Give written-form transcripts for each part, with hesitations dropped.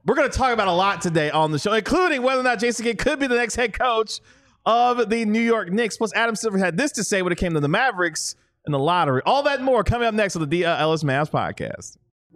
We're going to talk about a lot today on the show, including whether or not Jason Kidd could be the next head coach of the New York Knicks. Plus, Adam Silver had this to say when it came to the Mavericks and the lottery. All that and more coming up next on the DLS Mavs podcast.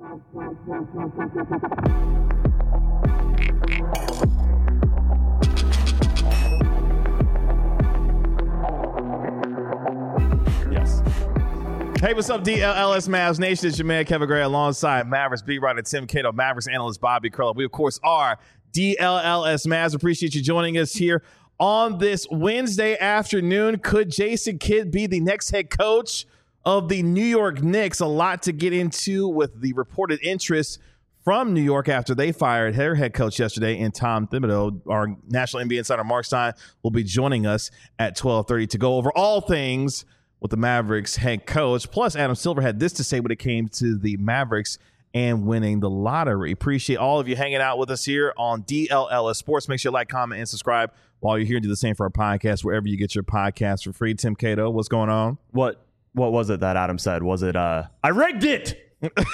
Hey, what's up, DLS Mavs Nation? It's your man, Kevin Gray, alongside Mavericks beat writer Tim Cato, Mavericks analyst Bobby Curl. We, of course, are DLS Mavs. Appreciate you joining us here on this Wednesday afternoon. Could Jason Kidd be the next head coach of the New York Knicks? A lot to get into with the reported interest from New York after they fired their head coach yesterday in Tom Thibodeau. Our national NBA insider Mark Stein will be joining us at 12:30 to go over all things with the Mavericks head coach. Plus, Adam Silver had this to say when it came to the Mavericks and winning the lottery. Appreciate all of you hanging out with us here on DLLS Sports. Make sure you like, comment, and subscribe while you're here. Do the same for our podcast, wherever you get your podcast for free. Tim Cato, what's going on? What was it that Adam said? Was it, I rigged it?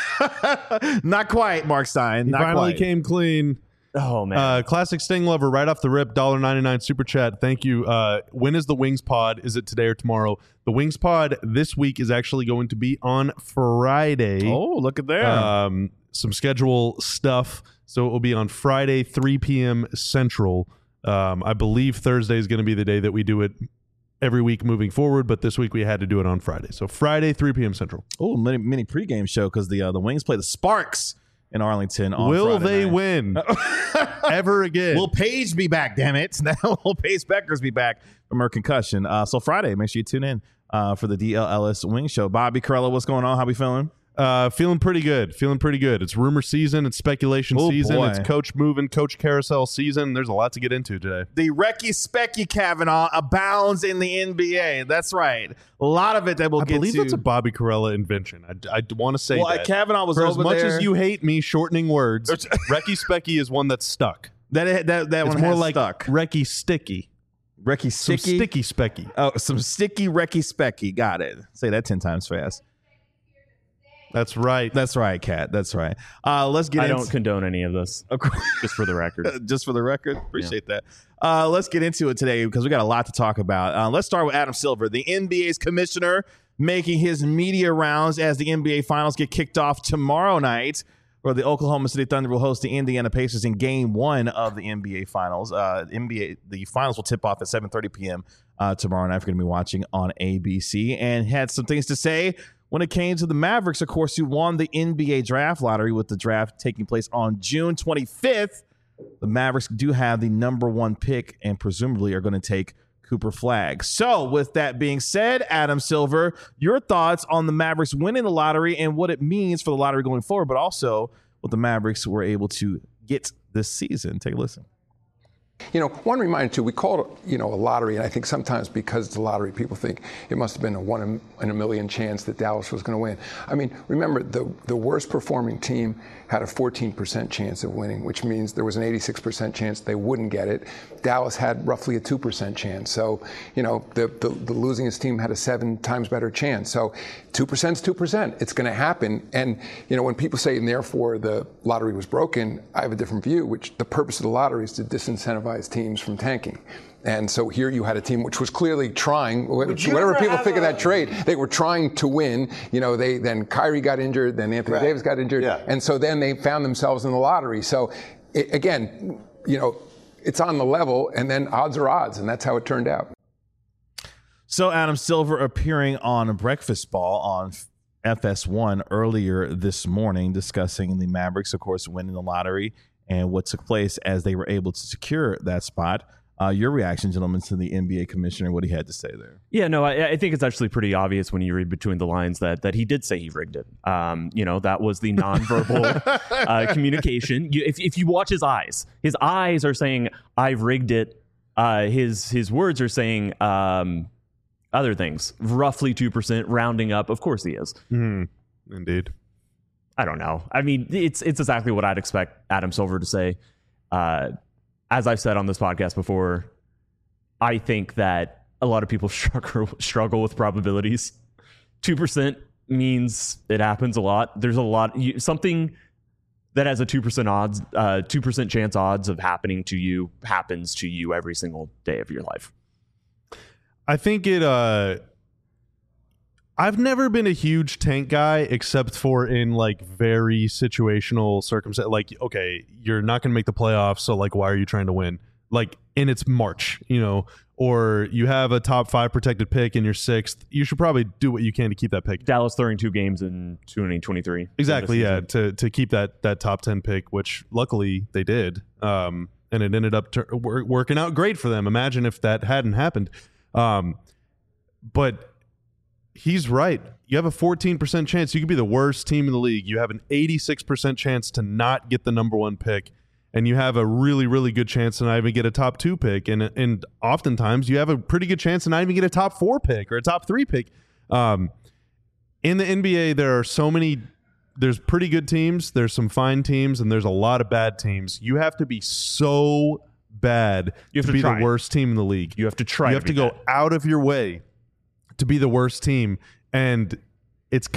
Not quite, Mark Stein. He Not finally quite. came clean. Oh, man. Classic Sting Lover right off the rip, $1.99 super chat. Thank you. When is the Wings pod? Is it today or tomorrow? The Wings pod this week is actually going to be on Friday. Oh, look at that. Some schedule stuff. So it will be on Friday, 3 p.m. Central. I believe Thursday is going to be the day that we do it every week moving forward, but this week we had to do it on Friday. So Friday, 3 p.m. Central. Oh, mini pregame show because the Wings play the Sparks in Arlington on Will Friday they night. win ever again? Will Paige be back, damn it. Now will Paige Beckers be back from her concussion. So Friday, make sure you tune in for the DLLS Wing Show. Bobby Corella, what's going on? How we feeling? Feeling pretty good. It's rumor season. It's speculation season. Boy. It's coach moving, coach carousel season. There's a lot to get into today. The Recky Specky Kavanaugh abounds in the NBA. That's right. A lot of it that we'll I get to. believe that's a Bobby Corella invention. I want to say that. Kavanaugh was For over as much there. as you hate me shortening words, Recky Specky is one that's stuck. That It's one more has like stuck. Recky Sticky. Recky Some Sticky. sticky specky. Oh, some sticky Recky Specky. Got it. Say that 10 times fast. That's right. That's right, Kat. That's right. Let's get I into don't condone any of this, just for the record. Just for the record. Appreciate that. Let's get into it today because we got a lot to talk about. Let's start with Adam Silver, the NBA's commissioner, making his media rounds as the NBA Finals get kicked off tomorrow night, where the Oklahoma City Thunder will host the Indiana Pacers in Game 1 of the NBA Finals. The Finals will tip off at 7:30 p.m. Tomorrow night. We're going to be watching on ABC, and had some things to say when it came to the Mavericks, of course, who won the NBA draft lottery with the draft taking place on June 25th. The Mavericks do have the number 1 pick and presumably are going to take Cooper Flagg. So with that being said, Adam Silver, your thoughts on the Mavericks winning the lottery and what it means for the lottery going forward, but also what the Mavericks were able to get this season. Take a listen. You know, one reminder too, we call it, a lottery, and I think sometimes because it's a lottery, people think it must have been a 1 in a million chance that Dallas was going to win. I mean, remember, the worst performing team had a 14% chance of winning, which means there was an 86% chance they wouldn't get it. Dallas had roughly a 2% chance. So, the losingest team had a 7 times better chance. So 2% is 2%. It's going to happen. And, when people say, and therefore the lottery was broken, I have a different view, which the purpose of the lottery is to disincentivize teams from tanking. And so here you had a team which was clearly trying, whatever people think of that trade, they were trying to win. Then Kyrie got injured, then Anthony Davis got injured. Yeah. And so then they found themselves in the lottery. So again, it's on the level, and then odds are odds, and that's how it turned out. So Adam Silver appearing on Breakfast Ball on FS1 earlier this morning, discussing the Mavericks, of course, winning the lottery and what took place as they were able to secure that spot. Your reaction, gentlemen, to the NBA commissioner, what he had to say there. Yeah, no, I think it's actually pretty obvious when you read between the lines that he did say he rigged it. That was the nonverbal communication. If you watch his eyes are saying, I've rigged it. His words are saying other things, roughly 2%, rounding up. Of course he is. Indeed. I don't know. I mean, it's exactly what I'd expect Adam Silver to say. As I've said on this podcast before, I think that a lot of people struggle with probabilities. 2% means it happens a lot. There's a lot. that has a 2% odds, 2% chance odds of happening to you happens to you every single day of your life. I think I've never been a huge tank guy except for in like very situational circumstances. Like, okay, you're not going to make the playoffs, so like, why are you trying to win? Like, and it's March, or you have a top 5 protected pick and you're 6th. You should probably do what you can to keep that pick. Dallas throwing 2 games in 2023. Exactly, yeah, to keep that top 10 pick, which luckily they did, and it ended up working out great for them. Imagine if that hadn't happened. But he's right. You have a 14% chance. You could be the worst team in the league. You have an 86% chance to not get the number 1 pick, and you have a really, really good chance to not even get a top 2 pick. And oftentimes you have a pretty good chance to not even get a top 4 pick or a top 3 pick. In the NBA, there's pretty good teams, there's some fine teams, and there's a lot of bad teams. You have to be so bad to be the worst team in the league. You have to try. You have to go out of your way to be the worst team, and it's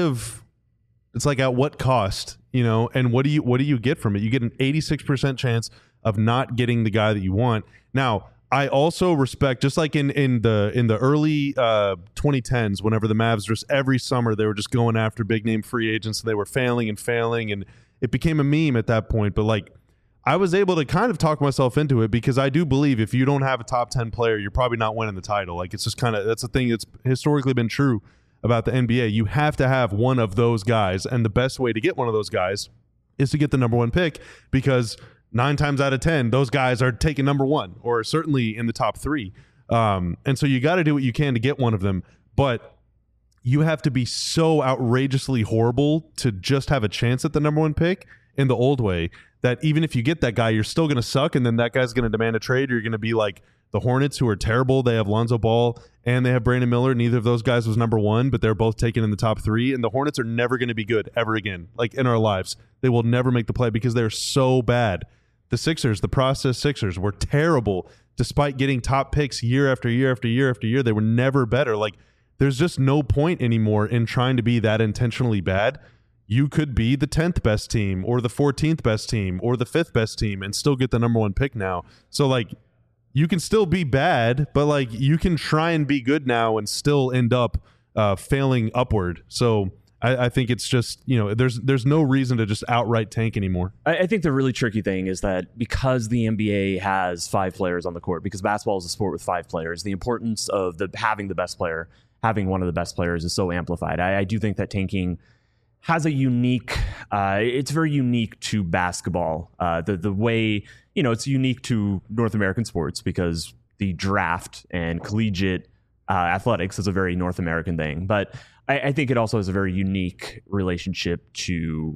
like at what cost, and what do you get from it? You get an 86% chance of not getting the guy that you want. Now, I also respect, just like in the early 2010s, whenever the Mavs just every summer they were just going after big name free agents, and they were failing, and it became a meme at that point. But like, I was able to kind of talk myself into it, because I do believe if you don't have a top 10 player, you're probably not winning the title. Like, it's just that's a thing that's historically been true about the NBA. You have to have one of those guys, and the best way to get one of those guys is to get the number 1 pick, because 9 times out of 10, those guys are taking number 1, or certainly in the top 3. And so you got to do what you can to get one of them, but you have to be so outrageously horrible to just have a chance at the number 1 pick in the old way, that even if you get that guy, you're still going to suck, and then that guy's going to demand a trade. You're going to be like the Hornets, who are terrible. They have Lonzo Ball and they have Brandon Miller. Neither of those guys was number 1, but they're both taken in the top 3, and the Hornets are never going to be good ever again. Like, in our lives, they will never make the play because they're so bad. The Sixers, the process Sixers, were terrible despite getting top picks year after year after year after year. They were never better. Like, there's just no point anymore in trying to be that intentionally bad. You could be the 10th best team, or the 14th best team, or the 5th best team, and still get the number 1 pick now. So like, you can still be bad, but like, you can try and be good now and still end up failing upward. So I think it's just, there's no reason to just outright tank anymore. I think the really tricky thing is that because the NBA has 5 players on the court, because basketball is a sport with 5 players, the importance of having the best player, having one of the best players, is so amplified. I do think that tanking has a unique, it's very unique to basketball. The way, it's unique to North American sports, because the draft and collegiate athletics is a very North American thing. But I think it also has a very unique relationship to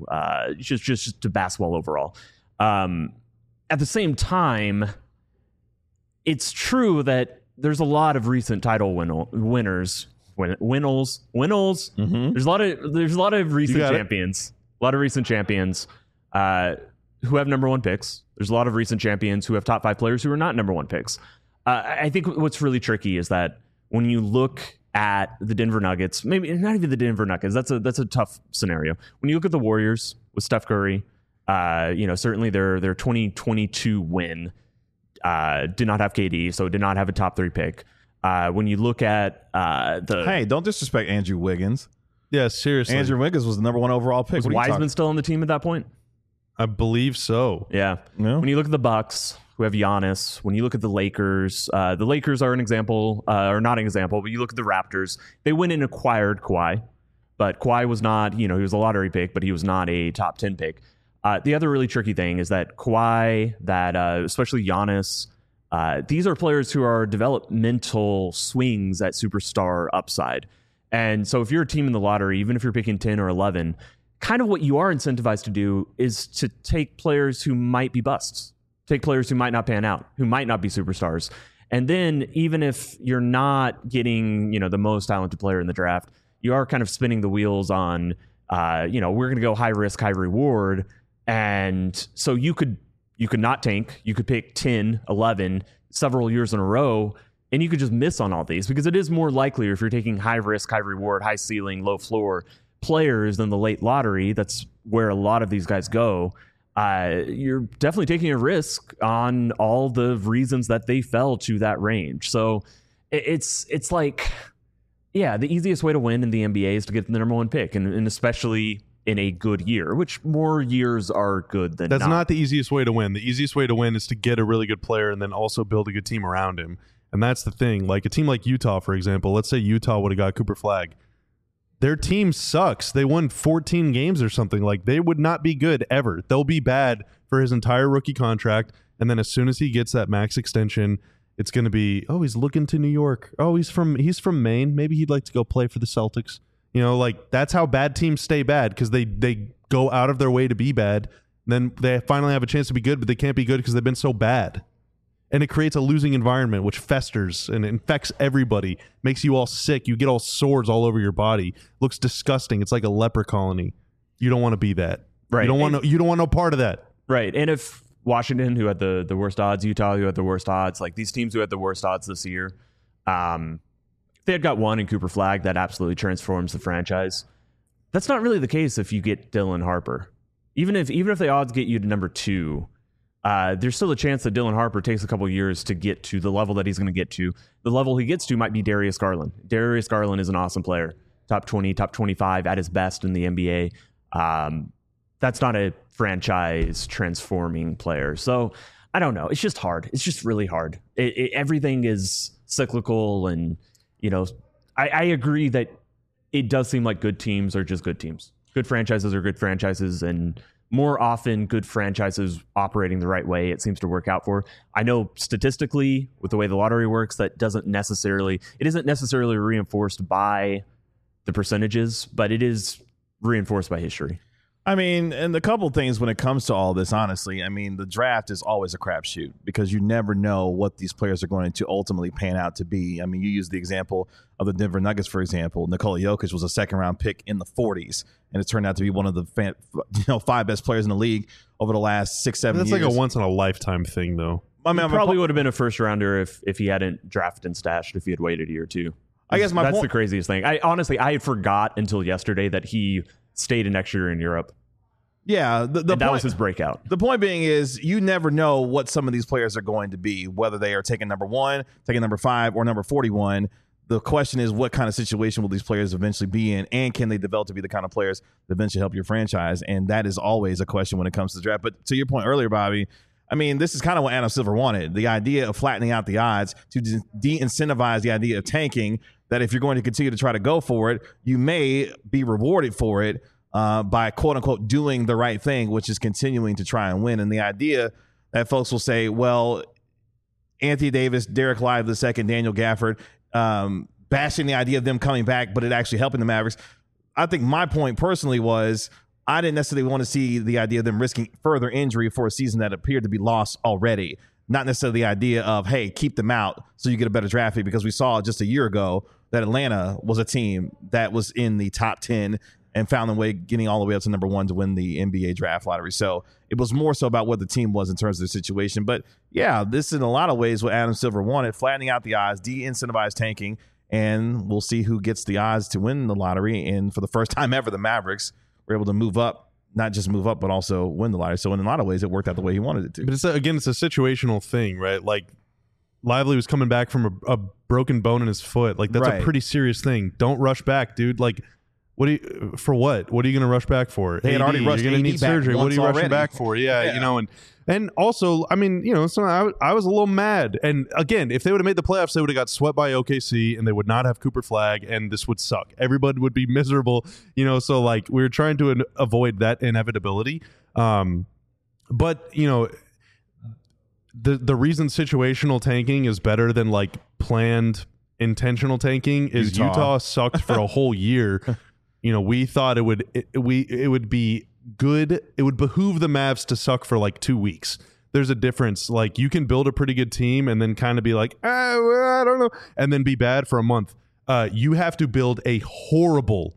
just to basketball overall. At the same time, it's true that there's a lot of recent title winners. Mm-hmm. There's a lot of recent champions. A lot of recent champions who have number 1 picks. There's a lot of recent champions who have top 5 players who are not number 1 picks. I think what's really tricky is that when you look at the Denver Nuggets, maybe not even the Denver Nuggets, that's a tough scenario. When you look at the Warriors with Steph Curry, certainly their 2022 win did not have KD, so did not have a top 3 pick. When you look at hey, don't disrespect Andrew Wiggins. Yeah, seriously. Andrew Wiggins was the number 1 overall pick. Was Wiseman still on the team at that point? I believe so. Yeah. No? When you look at the Bucks, who have Giannis, when you look at the Lakers are an example, or not an example, but you look at the Raptors, they went and acquired Kawhi, but Kawhi was not, he was a lottery pick, but he was not a top 10 pick. The other really tricky thing is that Kawhi, especially Giannis, these are players who are developmental swings at superstar upside. And so if you're a team in the lottery, even if you're picking 10 or 11, kind of what you are incentivized to do is to take players who might be busts, take players who might not pan out, who might not be superstars. And then even if you're not getting, the most talented player in the draft, you are kind of spinning the wheels on, we're going to go high risk, high reward. And so you could not tank. You could pick 10, 11, several years in a row, and you could just miss on all these, because it is more likely, if you're taking high risk, high reward, high ceiling, low floor players in the late lottery, that's where a lot of these guys go. You're definitely taking a risk on all the reasons that they fell to that range. So it's like, yeah, the easiest way to win in the NBA is to get the number one pick, and especially in a good year, which more years are good than That's not the easiest way to win. The easiest way to win is to get a really good player and then also build a good team around him. And that's the thing. Like a team like Utah, for example, let's say Utah would have got Cooper Flagg. Their team sucks. They won 14 games or something. Like, they would not be good ever. They'll be bad for his entire rookie contract. And then as soon as he gets that max extension, it's going to be, oh, he's looking to New York. Oh, he's from Maine. Maybe he'd like to go play for the Celtics. You know, like, that's how bad teams stay bad, because they go out of their way to be bad. Then they finally have a chance to be good, but they can't be good because they've been so bad. And it creates a losing environment, which festers and infects everybody, makes you all sick. You get all sores all over your body. Looks disgusting. It's like a leper colony. You don't want to be that. Right. You don't want no part of that. Right. And if Washington, who had the worst odds, Utah, who had the worst odds, like these teams who had the worst odds this year, if they had got one in Cooper Flagg, that absolutely transforms the franchise. That's not really the case if you get Dylan Harper. Even if the odds get you to number 2, there's still a chance that Dylan Harper takes a couple years to get to the level that he's going to get to. The level he gets to might be Darius Garland. Darius Garland is an awesome player. Top 20, top 25 at his best in the NBA. That's not a franchise transforming player. So I don't know. It's just hard. It's just really hard. Everything is cyclical. And, you know, I agree that it does seem like good teams are just good teams. Good franchises are good franchises. And more often, good franchises operating the right way, it seems to work out for. I know statistically, with the way the lottery works, that isn't necessarily reinforced by the percentages, but it is reinforced by history. I mean, and the couple things when it comes to all this, honestly, I mean, the draft is always a crapshoot because you never know what these players are going to ultimately pan out to be. I mean, you use the example of the Denver Nuggets, for example. Nikola Jokic was a second-round pick in the 40s, and it turned out to be one of the 5 best players in the league over the last 6-7 years. That's like a once-in-a-lifetime thing, though. I mean, probably would have been a first-rounder if he hadn't drafted and stashed, if he had waited a year or two. I guess that's the craziest thing. I forgot until yesterday that he stayed an extra year in Europe. Yeah, that was his breakout. The point being is you never know what some of these players are going to be, whether they are taking number 1, taking number 5, or number 41. The question is, what kind of situation will these players eventually be in, and can they develop to be the kind of players that eventually help your franchise? And that is always a question when it comes to the draft. But to your point earlier, Bobby, I mean, this is kind of what Adam Silver wanted. The idea of flattening out the odds to de-incentivize the idea of tanking, that if you're going to continue to try to go for it, you may be rewarded for it by quote-unquote doing the right thing, which is continuing to try and win. And the idea that folks will say, well, Anthony Davis, Derek Lively II, Daniel Gafford, bashing the idea of them coming back, but it actually helping the Mavericks. I think my point personally was I didn't necessarily want to see the idea of them risking further injury for a season that appeared to be lost already. Not necessarily the idea of, hey, keep them out so you get a better draft pick, because we saw just a year ago that Atlanta was a team that was in the top 10 and found their way getting all the way up to number 1 to win the NBA draft lottery. So it was more so about what the team was in terms of the situation. But yeah, this in a lot of ways what Adam Silver wanted, flattening out the odds, de-incentivize tanking, and we'll see who gets the odds to win the lottery. And for the first time ever, the Mavericks were able to move up, not just move up, but also win the lottery. So in a lot of ways, it worked out the way he wanted it to. But it's a situational thing, right? Like, Lively was coming back from a broken bone in his foot. Like, that's a pretty serious thing. Don't rush back, dude. Like, what are you going to rush back for? They had already rushed. You're going to need surgery. What are you rushing back for? Yeah, you know, and also, I mean, you know, so I was a little mad. And again, if they would have made the playoffs, they would have got swept by OKC, and they would not have Cooper Flagg, and this would suck. Everybody would be miserable, you know. So like, we were trying to avoid that inevitability. But you know, the reason situational tanking is better than like planned intentional tanking is Utah sucked for a whole year. You know, we thought it would be good. It would behoove the Mavs to suck for like 2 weeks. There's a difference. Like, you can build a pretty good team and then kind of be like, well, I don't know, and then be bad for a month. You have to build a horrible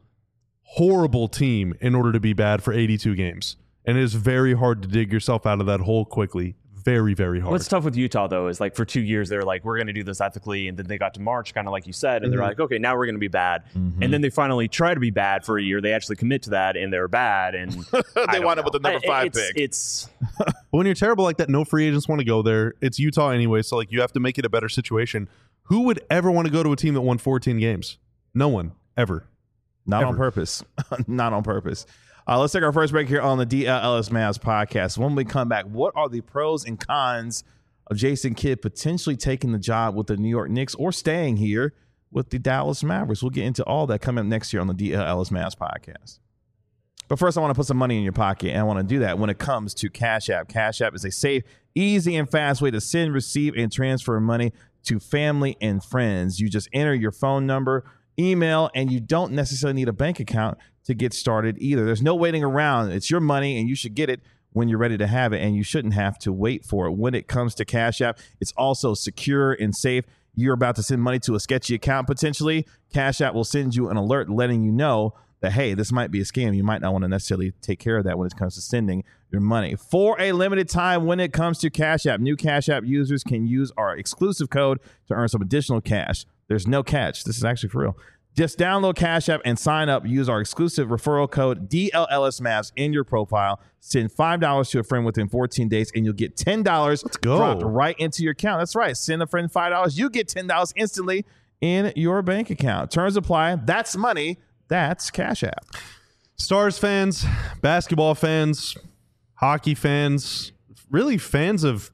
team in order to be bad for 82 games. And it is very hard to dig yourself out of that hole quickly. very, very hard. What's tough with Utah, though, is like for 2 years, they're like, we're going to do this ethically. And then they got to March, kind of like you said, and they're like, okay, now we're going to be bad. And then they finally try to be bad for a year. They actually commit to that, and they're bad. And they wind up with the number 5 pick. But when you're terrible like that, no free agents want to go there. It's Utah anyway, so like you have to make it a better situation. Who would ever want to go to a team that won 14 games? No one, ever. Not Ever. on purpose. Not on purpose. Let's take our first break here on the DLS Mavs podcast. When we come back, what are the pros and cons of Jason Kidd potentially taking the job with the New York Knicks or staying here with the Dallas Mavericks? We'll get into all that coming up next year on the DLS Mavs podcast. But first, I want to put some money in your pocket, and I want to do that when it comes to Cash App. Cash App is a safe, easy, and fast way to send, receive, and transfer money to family and friends. You just enter your phone number, email, and you don't necessarily need a bank account to get started either. There's no waiting around. It's your money, and you should get it when you're ready to have it, and you shouldn't have to wait for it. When it comes to Cash App, it's also secure and safe. You're about to send money to a sketchy account potentially. Cash App will send you an alert letting you know that, hey, this might be a scam. You might not want to necessarily take care of that when it comes to sending your money. For a limited time, when it comes to Cash App, new Cash App users can use our exclusive code to earn some additional cash. There's no catch. This is actually for real. Just download Cash App and sign up. Use our exclusive referral code DLLSMavs in your profile. Send $5 to a friend within 14 days, and you'll get $10 dropped right into your account. That's right. Send a friend $5. You get $10 instantly in your bank account. Terms apply. That's money. That's Cash App. Stars fans, basketball fans, hockey fans, really fans of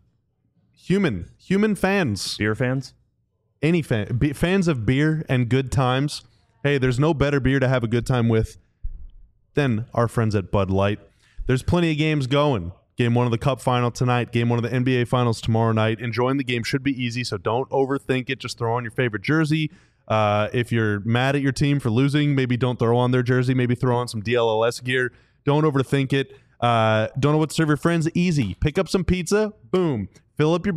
human fans. Beer fans? Any fans of beer and good times. Hey, there's no better beer to have a good time with than our friends at Bud Light. There's plenty of games going. Game 1 of the Cup final tonight. Game 1 of the NBA finals tomorrow night. Enjoying the game should be easy, so don't overthink it. Just throw on your favorite jersey. If you're mad at your team for losing, maybe don't throw on their jersey. Maybe throw on some DLLS gear. Don't overthink it. Don't know what to serve your friends? Easy. Pick up some pizza. Boom. Fill up your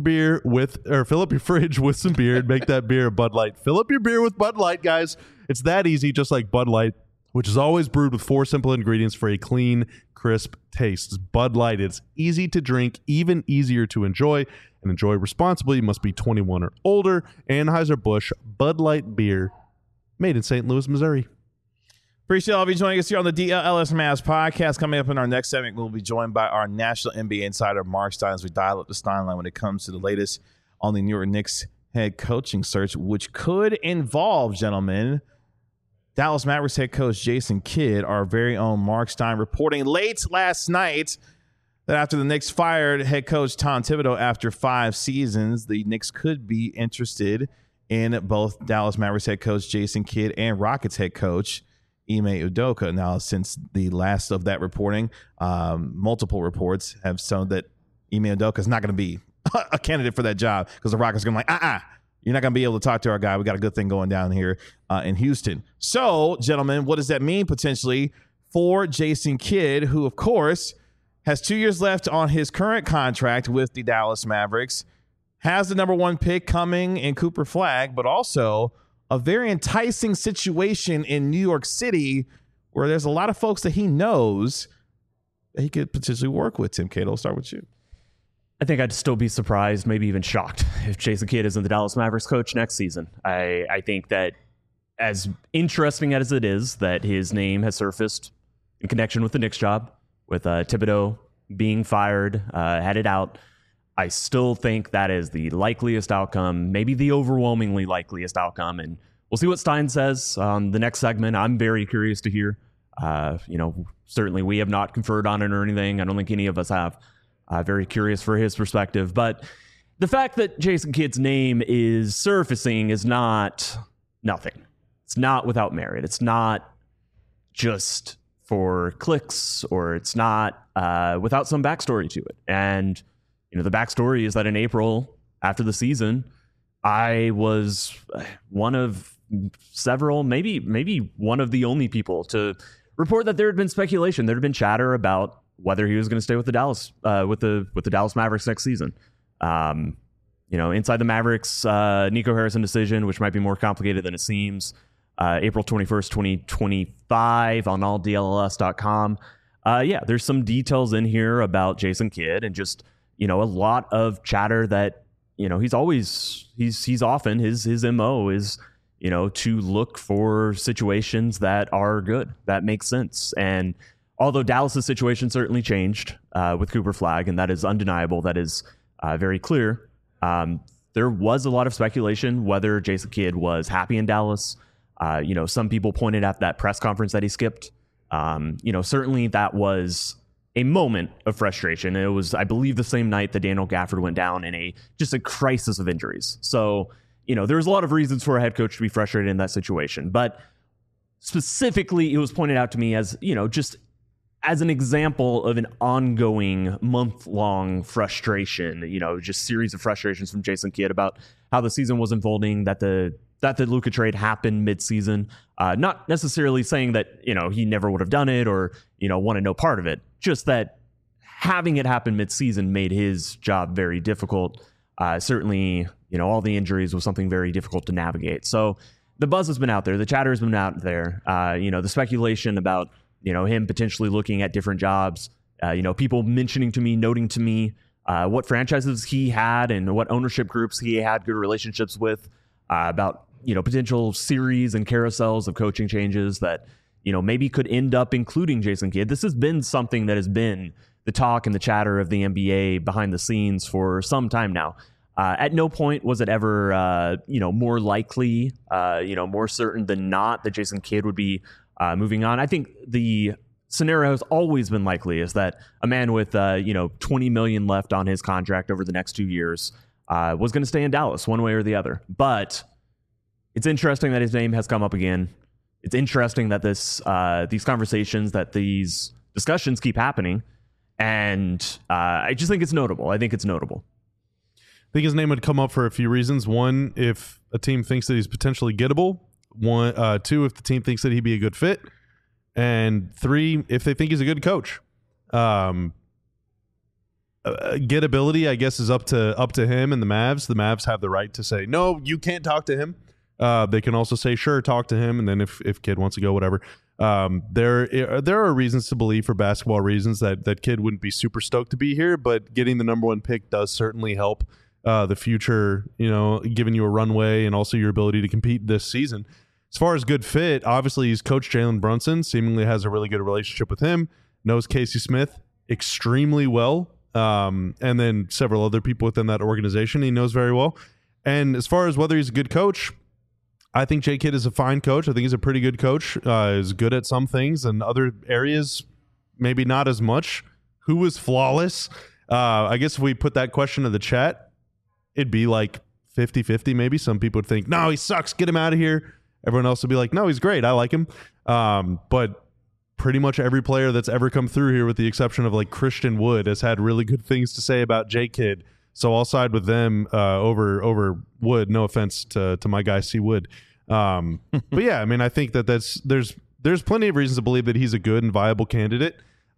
fridge with some beer and make that beer a Bud Light. Fill up your beer with Bud Light, guys. It's that easy, just like Bud Light, which is always brewed with 4 simple ingredients for a clean, crisp taste. It's Bud Light. It's easy to drink, even easier to enjoy, and enjoy responsibly. You must be 21 or older. Anheuser-Busch Bud Light beer, made in St. Louis, Missouri. Appreciate all of you joining us here on the DLS Mavs podcast. Coming up in our next segment, we'll be joined by our national NBA insider, Mark Stein, as we dial up the Stein line when it comes to the latest on the New York Knicks head coaching search, which could involve, gentlemen, Dallas Mavericks head coach Jason Kidd. Our very own Mark Stein reporting late last night that after the Knicks fired head coach Tom Thibodeau after 5 seasons, the Knicks could be interested in both Dallas Mavericks head coach Jason Kidd and Rockets head coach Ime Udoka. Now, since the last of that reporting, multiple reports have shown that Ime Udoka is not going to be a candidate for that job because the Rockets are going to be like, you're not going to be able to talk to our guy. We got a good thing going down here in Houston. So, gentlemen, what does that mean potentially for Jason Kidd, who, of course, has 2 years left on his current contract with the Dallas Mavericks, has the number 1 pick coming in Cooper Flagg, but also a very enticing situation in New York City where there's a lot of folks that he knows that he could potentially work with. Tim Cato, I'll start with you. I think I'd still be surprised, maybe even shocked, if Jason Kidd isn't the Dallas Mavericks coach next season. I think that as interesting as it is that his name has surfaced in connection with the Knicks job, with Thibodeau being fired, headed out, I still think that is the likeliest outcome, maybe the overwhelmingly likeliest outcome. And we'll see what Stein says on the next segment. I'm very curious to hear. Certainly we have not conferred on it or anything. I don't think any of us have. Very curious for his perspective. But the fact that Jason Kidd's name is surfacing is not nothing. It's not without merit. It's not just for clicks, or it's not without some backstory to it. And the backstory is that in April, after the season, I was one of several, maybe one of the only people to report that there had been speculation. There had been chatter about whether he was going to stay with the Dallas with the Dallas Mavericks next season. Inside the Mavericks, Nico Harrison decision, which might be more complicated than it seems. April 21st, 2025 on alldlls.com. There's some details in here about Jason Kidd and just a lot of chatter that, he's often his MO is, to look for situations that are good, that make sense. And although Dallas's situation certainly changed with Cooper Flagg, and that is undeniable, that is very clear, there was a lot of speculation whether Jason Kidd was happy in Dallas. Some people pointed at that press conference that he skipped. Certainly that was a moment of frustration. It was, I believe, the same night that Daniel Gafford went down in just a crisis of injuries. So, there's a lot of reasons for a head coach to be frustrated in that situation. But specifically, it was pointed out to me as, just as an example of an ongoing month-long frustration, just series of frustrations from Jason Kidd about how the season was unfolding, that the Luka trade happened mid-season. Not necessarily saying that, he never would have done it or, wanted no part of it. Just that having it happen mid-season made his job very difficult. Certainly, all the injuries was something very difficult to navigate. So the buzz has been out there. The chatter has been out there. The speculation about, him potentially looking at different jobs, people noting to me what franchises he had and what ownership groups he had good relationships with, about, potential series and carousels of coaching changes that, maybe could end up including Jason Kidd. This has been something that has been the talk and the chatter of the NBA behind the scenes for some time now. At no point was it ever, more likely, more certain than not that Jason Kidd would be moving on. I think the scenario has always been likely is that a man with, $20 million left on his contract over the next 2 years was going to stay in Dallas one way or the other. But it's interesting that his name has come up again. It's interesting that these conversations, that these discussions keep happening. And I just think it's notable. I think his name would come up for a few reasons. One, if a team thinks that he's potentially gettable. Two, if the team thinks that he'd be a good fit. And three, if they think he's a good coach. Gettability, I guess, is up to him and the Mavs. The Mavs have the right to say, no, you can't talk to him. They can also say, sure, talk to him. And then if Kidd wants to go, whatever. There are reasons to believe, for basketball reasons, that Kidd wouldn't be super stoked to be here, but getting the number one pick does certainly help the future, giving you a runway and also your ability to compete this season. As far as good fit, obviously he's coached Jalen Brunson, seemingly has a really good relationship with him, knows Casey Smith extremely well, and then several other people within that organization he knows very well. And as far as whether he's a good coach, I think Jay Kidd is a fine coach. I think he's a pretty good coach. Is good at some things and other areas, maybe not as much. Who is flawless? I guess if we put that question in the chat, it'd be like 50-50 maybe. Some people would think, no, he sucks, get him out of here. Everyone else would be like, no, he's great, I like him. But pretty much every player that's ever come through here, with the exception of like Christian Wood, has had really good things to say about Jay Kidd. So I'll side with them over Wood. No offense to my guy C. Wood. But yeah, I mean, I think that there's plenty of reasons to believe that he's a good and viable candidate.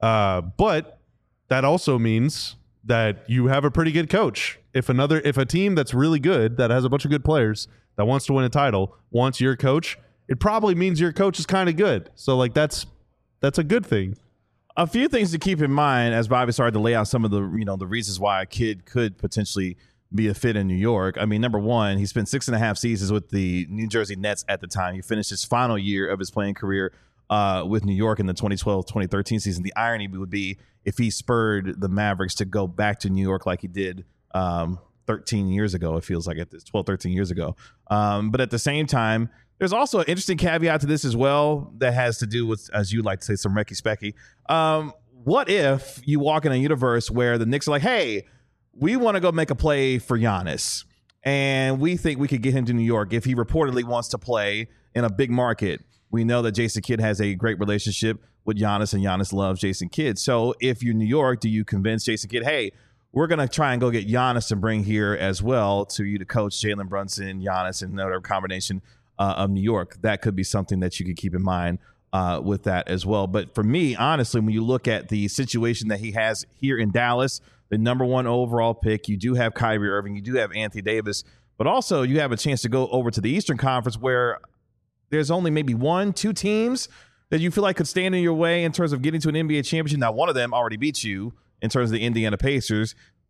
But that also means that you have a pretty good coach. If a team that's really good, that has a bunch of good players, that wants to win a title, wants your coach, it probably means your coach is kind of good. So like that's a good thing. A few things to keep in mind as Bobby started to lay out some of the the reasons why a kid could potentially be a fit in New York. I mean, number one, he spent 6.5 seasons with the New Jersey Nets at the time. He finished his final year of his playing career with New York in the 2012-2013 season. The irony would be if he spurred the Mavericks to go back to New York like he did 13 years ago. It feels like it is 12, 13 years ago. But at the same time, there's also an interesting caveat to this as well that has to do with, as you like to say, some Recky Specky. What if you walk in a universe where the Knicks are like, hey, we want to go make a play for Giannis, and we think we could get him to New York if he reportedly wants to play in a big market. We know that Jason Kidd has a great relationship with Giannis, and Giannis loves Jason Kidd. So if you're New York, do you convince Jason Kidd, hey, we're going to try and go get Giannis to bring here as well to you to coach Jalen Brunson, Giannis, and another combination of New York? That could be something that you could keep in mind with that as well. But for me, honestly, when you look at the situation that he has here in Dallas, the number one overall pick, you do have Kyrie Irving, you do have Anthony Davis, but also you have a chance to go over to the Eastern Conference where there's only maybe 1-2 teams that you feel like could stand in your way in terms of getting to an NBA championship. Now, one of them already beat you in terms of the Indiana Pacers.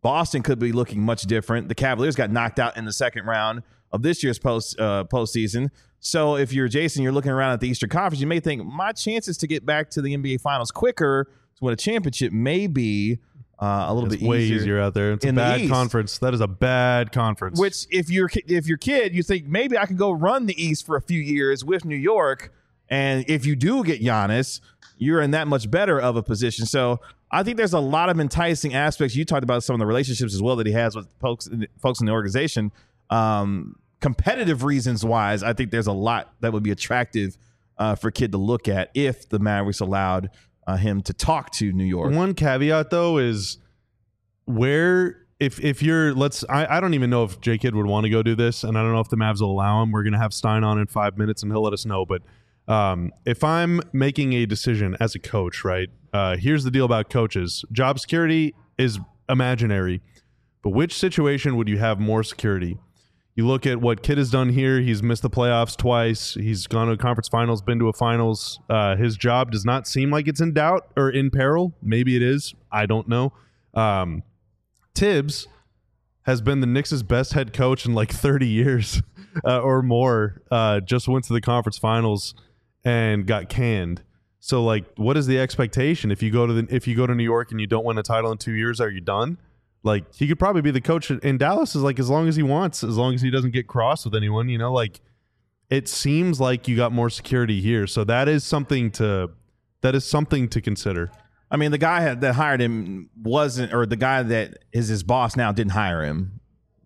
Boston could be looking much different. The Cavaliers got knocked out in the second round of this year's postseason. So if you're Jason, you're looking around at the Eastern Conference, you may think my chances to get back to the NBA Finals quicker to win a championship may be a little bit way easier out there. It's a bad conference. That is a bad conference. Which, if you're kid, you think maybe I can go run the East for a few years with New York, and if you do get Giannis, you're in that much better of a position. So I think there's a lot of enticing aspects. You talked about some of the relationships as well that he has with folks in the organization. Competitive reasons wise, I think there's a lot that would be attractive for Kidd to look at if the Mavericks allowed him to talk to New York. One caveat though is where if you're I don't even know if J Kidd would want to go do this, and I don't know if the Mavs will allow him. We're gonna have Stein on in 5 minutes and he'll let us know. But if I'm making a decision as a coach, right? Here's the deal about coaches. Job security is imaginary, but which situation would you have more security? You look at what Kidd has done here. He's missed the playoffs twice. He's gone to a conference finals, been to a finals. His job does not seem like it's in doubt or in peril. Maybe it is. I don't know. Tibbs has been the Knicks' best head coach in like 30 years or more. Just went to the conference finals and got canned. So, like, what is the expectation if you go to New York and you don't win a title in 2 years? Are you done? Like, he could probably be the coach in Dallas as long as he wants, as long as he doesn't get cross with anyone, like it seems like you got more security here. So that is something to consider. I mean, the guy that hired him the guy that is his boss now didn't hire him.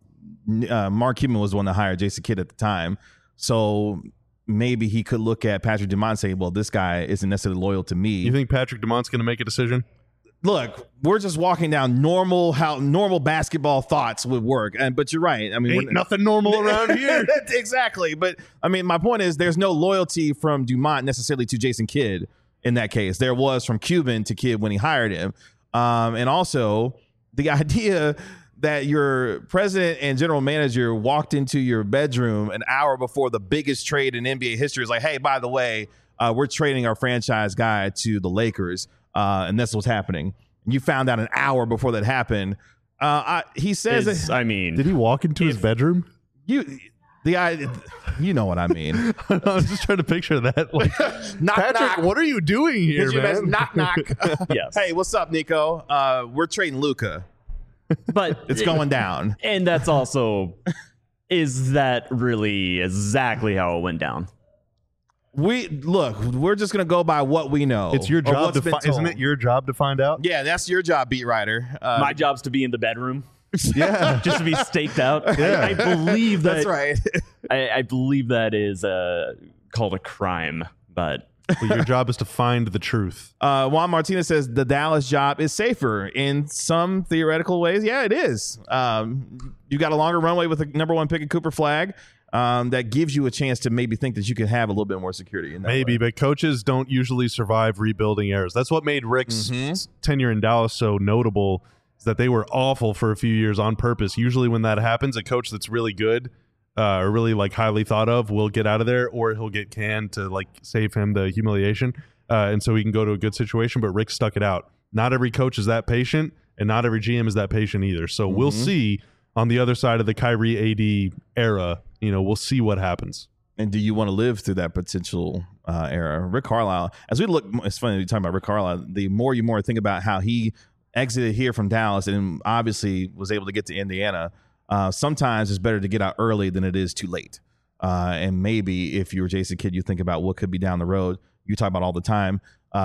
Mark Cuban was the one that hired Jason Kidd at the time. So maybe he could look at Patrick Dumont and say, well, this guy isn't necessarily loyal to me. You think Patrick Dumont's going to make a decision? Look, we're just walking down how normal basketball thoughts would work. But you're right. I mean, ain't nothing normal around here. Exactly. But I mean, my point is there's no loyalty from Dumont necessarily to Jason Kidd in that case. There was from Cuban to Kidd when he hired him. And also the idea that your president and general manager walked into your bedroom an hour before the biggest trade in NBA history is like, hey, by the way, we're trading our franchise guy to the Lakers. And that's what's happening. You found out an hour before that happened. He says, did he walk into his bedroom? You know what I mean. I was just trying to picture that. Like, knock, Patrick, knock. what are you doing here, man? Knock, knock. Yes. Hey, what's up, Nico? We're trading Luka. But it's going down. And that's also, is that really exactly how it went down? We're just gonna go by what we know. It's your job isn't it your job to find out? Yeah, that's your job, beat writer. My job's to be in the bedroom. Yeah, just to be staked out. Yeah. I believe that. That's right. I believe that is called a crime, but. Well, your job is to find the truth. Juan Martinez says the Dallas job is safer in some theoretical ways. Yeah, it is. You got a longer runway with the number one pick of Cooper Flagg. That gives you a chance to maybe think that you can have a little bit more security in that way. But coaches don't usually survive rebuilding errors. That's what made Rick's tenure in Dallas so notable, is that they were awful for a few years on purpose. Usually when that happens, a coach that's really good or really like highly thought of will get out of there, or he'll get canned to like save him the humiliation, and so he can go to a good situation. But Rick stuck it out. Not every coach is that patient, and not every GM is that patient either. So we'll see on the other side of the Kyrie AD era. We'll see what happens. And do you want to live through that potential era? Rick Carlisle, as we look, it's funny you're talking about Rick Carlisle. The more you think about how he exited here from Dallas and obviously was able to get to Indiana, sometimes it's better to get out early than it is too late. And maybe if you're Jason Kidd, you think about what could be down the road. You talk about all the time,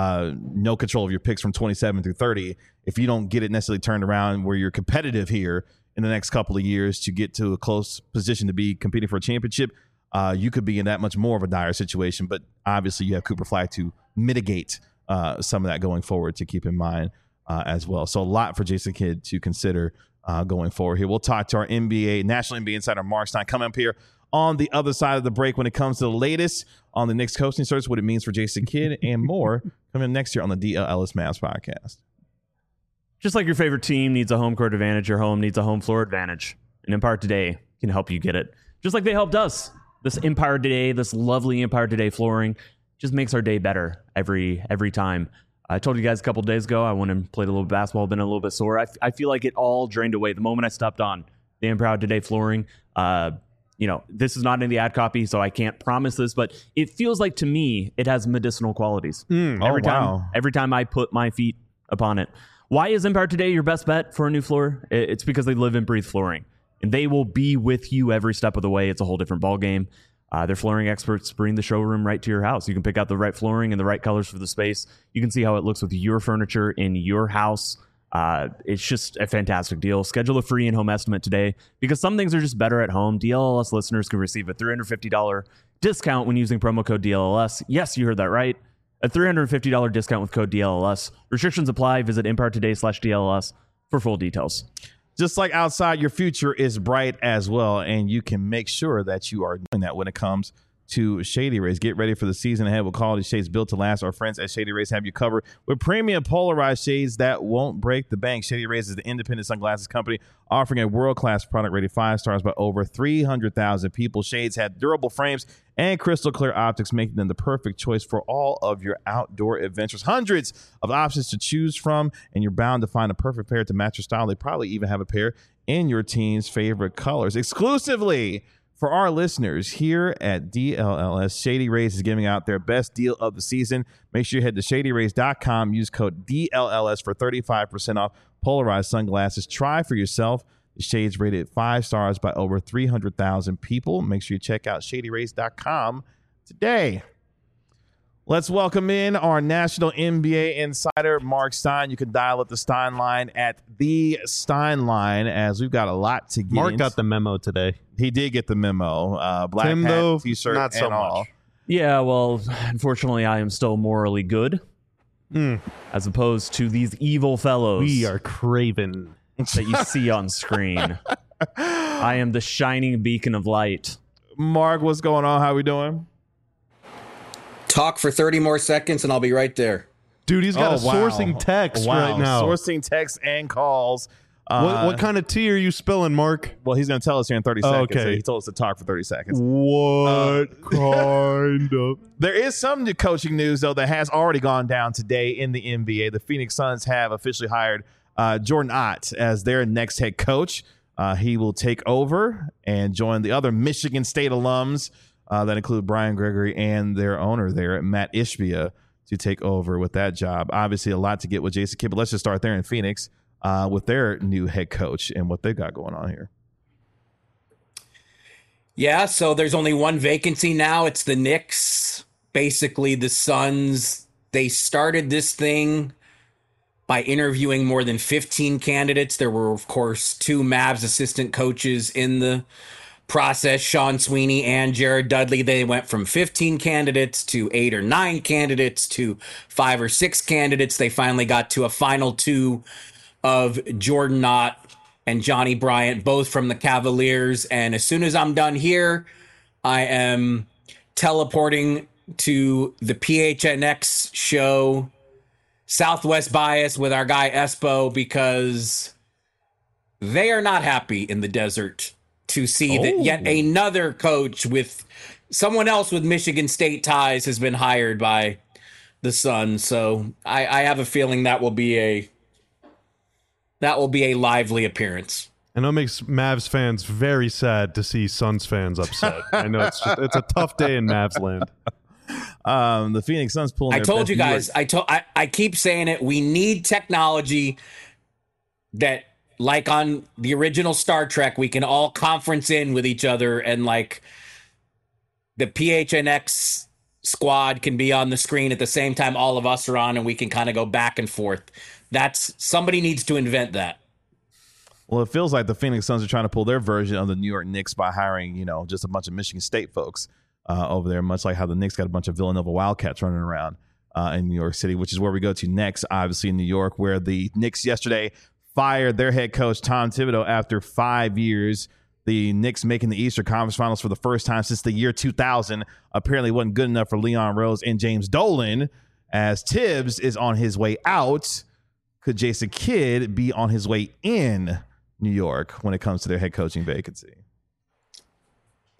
no control of your picks from 27 through 30. If you don't get it necessarily turned around where you're competitive here in the next couple of years to get to a close position to be competing for a championship, you could be in that much more of a dire situation. But obviously you have Cooper Flagg to mitigate some of that going forward to keep in mind as well. So a lot for Jason Kidd to consider going forward here. We'll talk to our National NBA insider, Mark Stein, coming up here on the other side of the break when it comes to the latest on the Knicks coaching search, what it means for Jason Kidd, and more coming next year on the DL Ellis Mavs podcast. Just like your favorite team needs a home court advantage, your home needs a home floor advantage. And Empire Today can help you get it. Just like they helped us. This Empire Today, this lovely Empire Today flooring just makes our day better every time. I told you guys a couple days ago I went and played a little basketball, been a little bit sore. I feel like it all drained away the moment I stepped on the I'm Proud Today flooring. This is not in the ad copy, so I can't promise this, but it feels like to me it has medicinal qualities. Every time I put my feet upon it. Why is Empire Today your best bet for a new floor? It's because they live and breathe flooring, and they will be with you every step of the way. It's a whole different ballgame. Their flooring experts bring the showroom right to your house. You can pick out the right flooring and the right colors for the space. You can see how it looks with your furniture in your house. It's just a fantastic deal. Schedule a free in-home estimate today because some things are just better at home. DLLS listeners can receive a $350 discount when using promo code DLLS. Yes, you heard that right. A $350 discount with code DLLS. Restrictions apply. Visit EmpireToday.com/DLLS for full details. Just like outside, your future is bright as well, and you can make sure that you are doing that when it comes to Shady Rays. Get ready for the season ahead with quality shades built to last. Our friends at Shady Rays have you covered with premium polarized shades that won't break the bank. Shady Rays is the independent sunglasses company offering a world-class product rated 5 stars by over 300,000 people. Shades have durable frames and crystal clear optics, making them the perfect choice for all of your outdoor adventures. Hundreds of options to choose from, and you're bound to find a perfect pair to match your style. They probably even have a pair in your team's favorite colors. Exclusively for our listeners here at DLLS, Shady Rays is giving out their best deal of the season. Make sure you head to ShadyRays.com. Use code DLLS for 35% off polarized sunglasses. Try for yourself. The shades rated 5 stars by over 300,000 people. Make sure you check out ShadyRays.com today. Let's welcome in our national NBA insider, Mark Stein. You can dial up the Stein line at the Stein line, as we've got a lot to get Mark into. got the memo today. He did get the memo. Black Tim, hat, though, t-shirt, not so and all. much. Yeah, well, unfortunately, I am still morally good, as opposed to these evil fellows. We are craven. That you see on screen. I am the shining beacon of light. Mark, what's going on? How we doing? Talk for 30 more seconds and I'll be right there. Dude, he's got wow. sourcing text right now. Sourcing texts and calls. What kind of tea are you spilling, Mark? Well, he's going to tell us here in 30 seconds. okay. So he told us to talk for 30 seconds. What kind of? There is some new coaching news, though, that has already gone down today in the NBA. The Phoenix Suns have officially hired Jordan Ott as their next head coach. He will take over and join the other Michigan State alums that include Brian Gregory and their owner there, Matt Ishbia, to take over with that job. Obviously, a lot to get with Jason Kidd, but let's just start there in Phoenix with their new head coach and what they've got going on here. Yeah, so there's only one vacancy now. It's the Knicks. Basically, the Suns, they started this thing by interviewing more than 15 candidates. There were, of course, 2 Mavs assistant coaches in the process, Sean Sweeney and Jared Dudley. They went from 15 candidates to 8 or 9 candidates to 5 or 6 candidates. They finally got to a final 2 of Jordan Knott and Johnny Bryant, both from the Cavaliers. And as soon as I'm done here, I am teleporting to the PHNX show, Southwest Bias, with our guy Espo, because they are not happy in the desert to see that yet another coach with someone else with Michigan State ties has been hired by the Suns. So I have a feeling that will be a lively appearance. I know it makes Mavs fans very sad to see Suns fans upset. I know it's a tough day in Mavs land. The Phoenix Suns pulling. I told you guys. I keep saying it. We need technology that, like on the original Star Trek, we can all conference in with each other, and like the PHNX squad can be on the screen at the same time all of us are on, and we can kind of go back and forth. Somebody needs to invent that. Well, it feels like the Phoenix Suns are trying to pull their version of the New York Knicks by hiring, just a bunch of Michigan State folks over there, much like how the Knicks got a bunch of Villanova Wildcats running around in New York City, which is where we go to next, obviously in New York, where the Knicks yesterday fired their head coach, Tom Thibodeau, after 5 years. The Knicks making the Eastern Conference Finals for the first time since the year 2000 apparently wasn't good enough for Leon Rose and James Dolan, as Tibbs is on his way out. Could Jason Kidd be on his way in New York when it comes to their head coaching vacancy?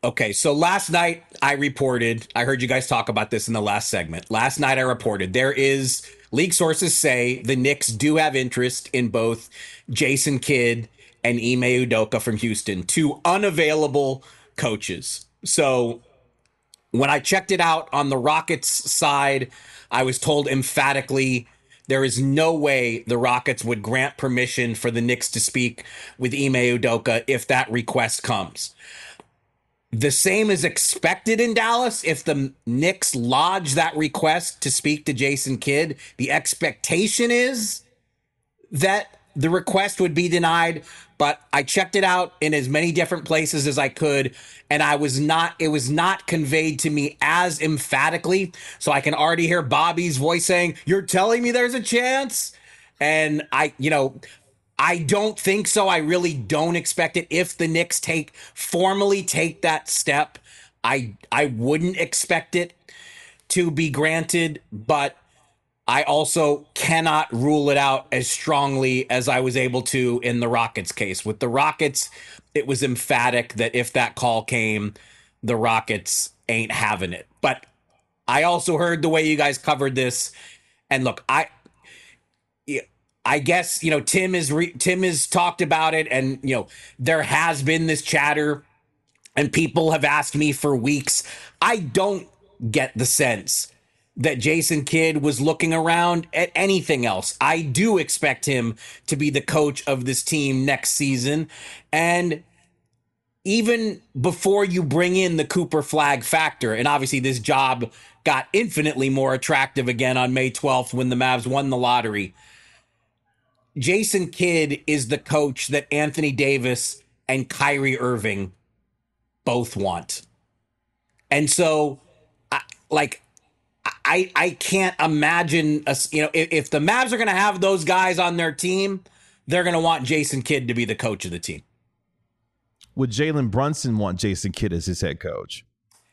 Okay, so last night I heard you guys talk about this in the last segment. Last night I reported league sources say the Knicks do have interest in both Jason Kidd and Ime Udoka from Houston, two unavailable coaches. So when I checked it out on the Rockets side, I was told emphatically there is no way the Rockets would grant permission for the Knicks to speak with Ime Udoka if that request comes. The same is expected in Dallas. If the Knicks lodge that request to speak to Jason Kidd, the expectation is that the request would be denied. But I checked it out in as many different places as I could, and it was not conveyed to me as emphatically. So I can already hear Bobby's voice saying, "You're telling me there's a chance?" And I don't think so. I really don't expect it. If the Knicks formally take that step, I wouldn't expect it to be granted, but I also cannot rule it out as strongly as I was able to in the Rockets case. With the Rockets, it was emphatic that if that call came, the Rockets ain't having it. But I also heard the way you guys covered this, and look, I guess, Tim has talked about it, and, there has been this chatter and people have asked me for weeks. I don't get the sense that Jason Kidd was looking around at anything else. I do expect him to be the coach of this team next season. And even before you bring in the Cooper Flag factor, and obviously this job got infinitely more attractive again on May 12th when the Mavs won the lottery, Jason Kidd is the coach that Anthony Davis and Kyrie Irving both want. And so, I can't imagine, if the Mavs are going to have those guys on their team, they're going to want Jason Kidd to be the coach of the team. Would Jalen Brunson want Jason Kidd as his head coach?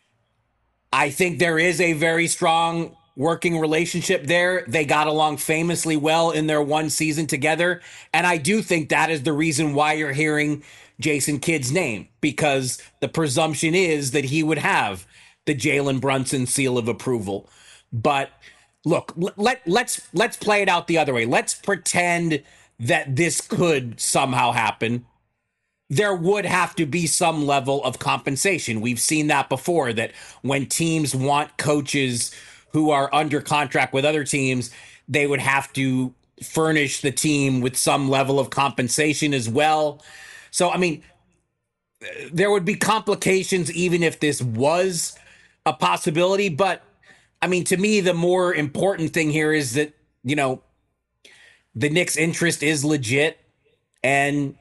I think there is a very strong working relationship there. They got along famously well in their one season together. And I do think that is the reason why you're hearing Jason Kidd's name, because the presumption is that he would have the Jalen Brunson seal of approval. But look, let's play it out the other way. Let's pretend that this could somehow happen. There would have to be some level of compensation. We've seen that before, that when teams want coaches who are under contract with other teams, they would have to furnish the team with some level of compensation as well. So, I mean, there would be complications even if this was a possibility. But, I mean, to me, the more important thing here is that, the Knicks' interest is legit. And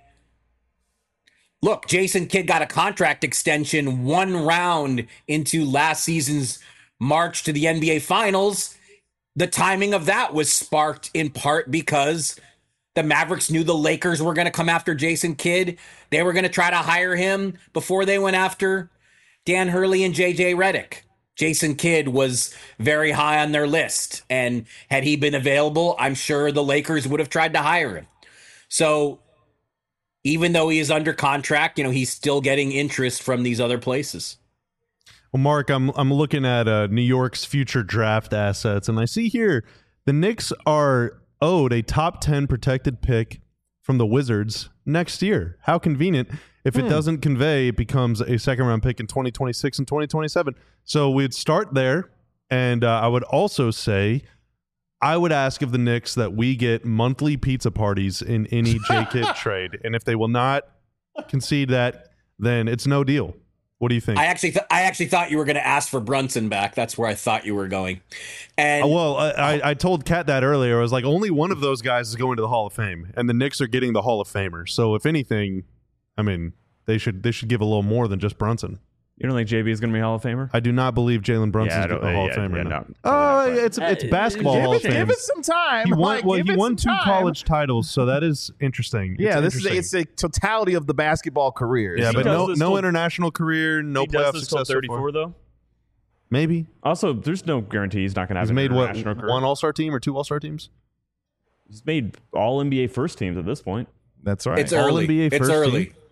look, Jason Kidd got a contract extension one round into last season's march to the NBA Finals. The timing of that was sparked in part because the Mavericks knew the Lakers were going to come after Jason Kidd. They were going to try to hire him before they went after Dan Hurley and JJ Redick. Jason Kidd was very high on their list, and had he been available, I'm sure the Lakers would have tried to hire him. So even though he is under contract, he's still getting interest from these other places. Well, Mark, I'm looking at New York's future draft assets, and I see here the Knicks are owed a top 10 protected pick from the Wizards next year. How convenient. If it doesn't convey, it becomes a second-round pick in 2026 and 2027. So we'd start there, and I would also say I would ask of the Knicks that we get monthly pizza parties in any J-Kidd trade. And if they will not concede that, then it's no deal. What do you think? I actually thought you were going to ask for Brunson back. That's where I thought you were going. And I told Kat that earlier. I was like, only one of those guys is going to the Hall of Fame, and the Knicks are getting the Hall of Famer. So if anything, I mean, they should give a little more than just Brunson. You don't think JB is going to be Hall of Famer? I do not believe Jalen Brunson is going to be a Hall of Famer. No. It's basketball Hall of Fame. Give it some time. He won two college titles, so that is interesting. Yeah, it's a totality of the basketball career. Yeah, but no international career, no playoff success. 34 though. Maybe. Also, there's no guarantee he's not going to have an international career. One All-Star team or two All-Star teams? He's made all NBA first teams at this point. That's right. It's early. All NBA it's first early. Team?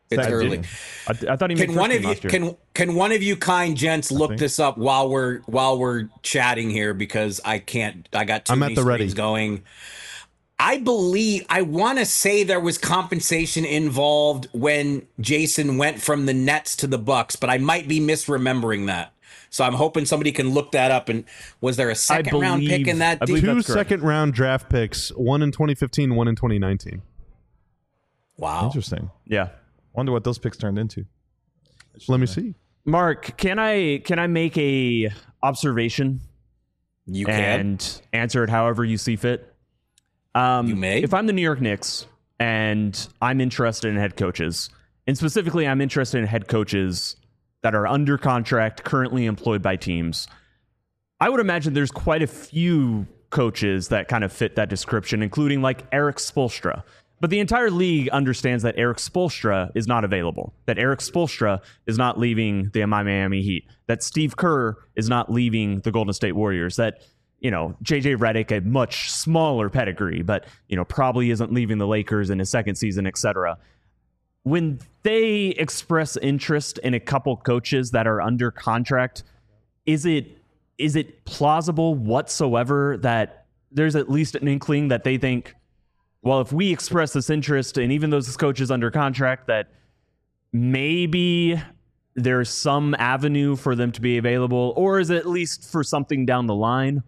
It's Second early. team. I thought he made Can one first of team you last year. can one of you kind gents look think. this up while we're chatting here, because I can't. I got too I'm many at the ready. screens going. I want to say there was compensation involved when Jason went from the Nets to the Bucks, but I might be misremembering that. So I'm hoping somebody can look that up. And was there a second round pick in that I believe deal? Two that's correct. second-round draft picks, one in 2015, one in 2019. Wow. Interesting. Yeah. Wonder what those picks turned into. Let me see. Mark, can I make a observation You can. and answer it however you see fit? You may. If I'm the New York Knicks and I'm interested in head coaches, and specifically I'm interested in head coaches that are under contract, currently employed by teams, I would imagine there's quite a few coaches that kind of fit that description, including like Eric Spoelstra. But the entire league understands that Eric Spoelstra is not available, that Eric Spoelstra is not leaving the Miami Heat, that Steve Kerr is not leaving the Golden State Warriors, that, you know, JJ Redick, a much smaller pedigree, but, you know, probably isn't leaving the Lakers in his second season, etc. When they express interest in a couple coaches that are under contract, is it plausible whatsoever that there's at least an inkling that they think, well, if we express this interest and even those coaches under contract, that maybe there's some avenue for them to be available, or is it at least for something down the line?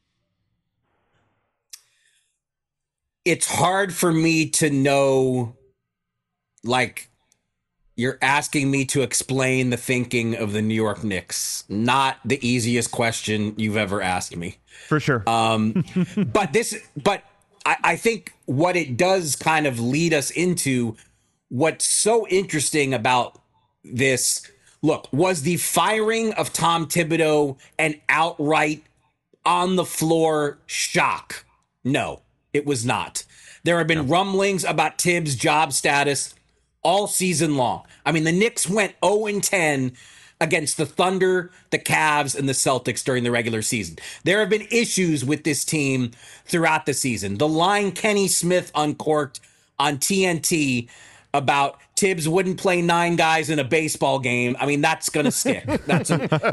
It's hard for me to know, like, you're asking me to explain the thinking of the New York Knicks. Not the easiest question you've ever asked me. For sure. But I think what it does kind of lead us into what's so interesting about this. Look, was the firing of Tom Thibodeau an outright on the floor shock? No, it was not. There have been rumblings about Tibbs' job status all season long. I mean, the Knicks went 0-10 against the Thunder, the Cavs, and the Celtics during the regular season. There have been issues with this team throughout the season. The line Kenny Smith uncorked on TNT about Tibbs wouldn't play 9 guys in a baseball game. I mean, that's going to stick. It's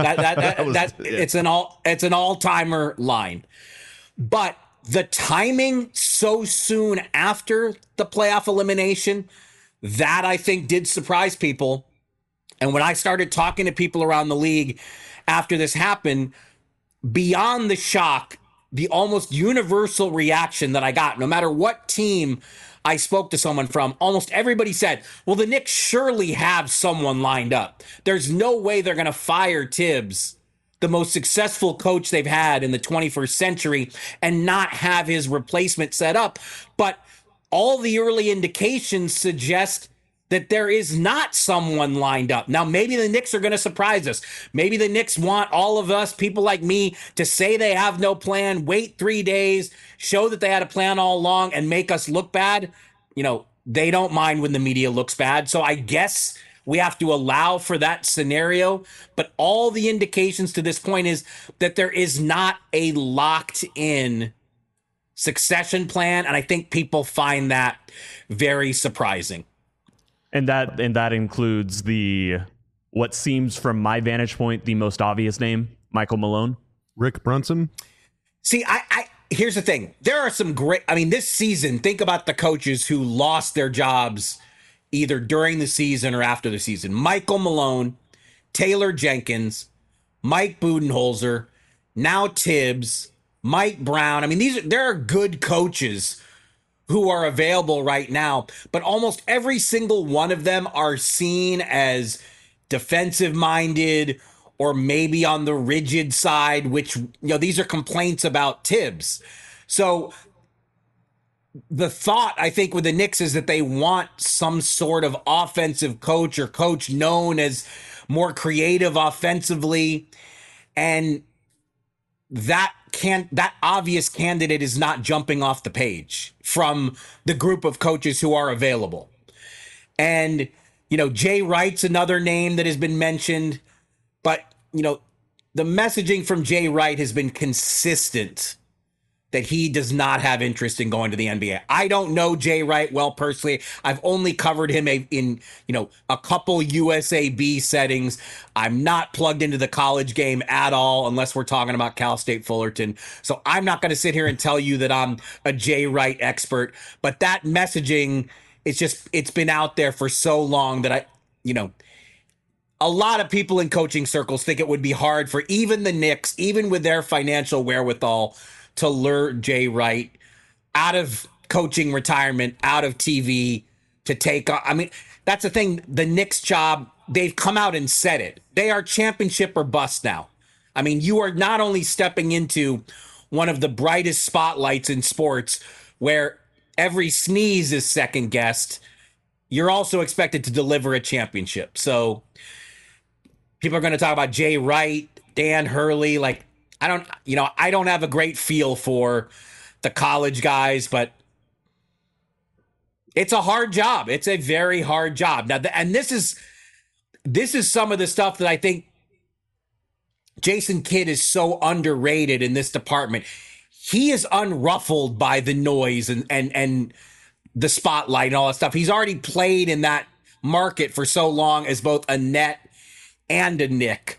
an all-timer line. But the timing so soon after the playoff elimination, that I think did surprise people. And when I started talking to people around the league after this happened, beyond the shock, the almost universal reaction that I got, no matter what team I spoke to someone from, almost everybody said, well, the Knicks surely have someone lined up. There's no way they're going to fire Tibbs, the most successful coach they've had in the 21st century, and not have his replacement set up. But all the early indications suggest that there is not someone lined up. Now, maybe the Knicks are going to surprise us. Maybe the Knicks want all of us, people like me, to say they have no plan, wait 3 days, show that they had a plan all along, and make us look bad. You know, they don't mind when the media looks bad. So I guess we have to allow for that scenario. But all the indications to this point is that there is not a locked in succession plan. And I think people find that very surprising. And that includes what seems from my vantage point, the most obvious name, Michael Malone. Rick Brunson. See, I here's the thing. There are some great, I mean, this season, think about the coaches who lost their jobs either during the season or after the season. Michael Malone, Taylor Jenkins, Mike Budenholzer, now Tibbs, Mike Brown. I mean, there are good coaches who are available right now, but almost every single one of them are seen as defensive minded or maybe on the rigid side, which, you know, these are complaints about Tibbs. So the thought, I think, with the Knicks is that they want some sort of offensive coach or coach known as more creative offensively. And that obvious candidate is not jumping off the page from the group of coaches who are available. And, you know, Jay Wright's another name that has been mentioned, but, you know, the messaging from Jay Wright has been consistent that he does not have interest in going to the NBA. I don't know Jay Wright well personally. I've only covered him in a couple USAB settings. I'm not plugged into the college game at all unless we're talking about Cal State Fullerton. So I'm not going to sit here and tell you that I'm a Jay Wright expert, but that messaging, it's been out there for so long that a lot of people in coaching circles think it would be hard for even the Knicks, even with their financial wherewithal, to lure Jay Wright out of coaching retirement, out of TV, to take on. I mean, that's the thing. The Knicks job, they've come out and said it. They are championship or bust now. I mean, you are not only stepping into one of the brightest spotlights in sports where every sneeze is second guessed, you're also expected to deliver a championship. So people are going to talk about Jay Wright, Dan Hurley. Like, I don't have a great feel for the college guys, but it's a hard job. It's a very hard job. Now, and this is some of the stuff that I think Jason Kidd is so underrated in this department. He is unruffled by the noise and the spotlight and all that stuff. He's already played in that market for so long as both a Net and a Nick.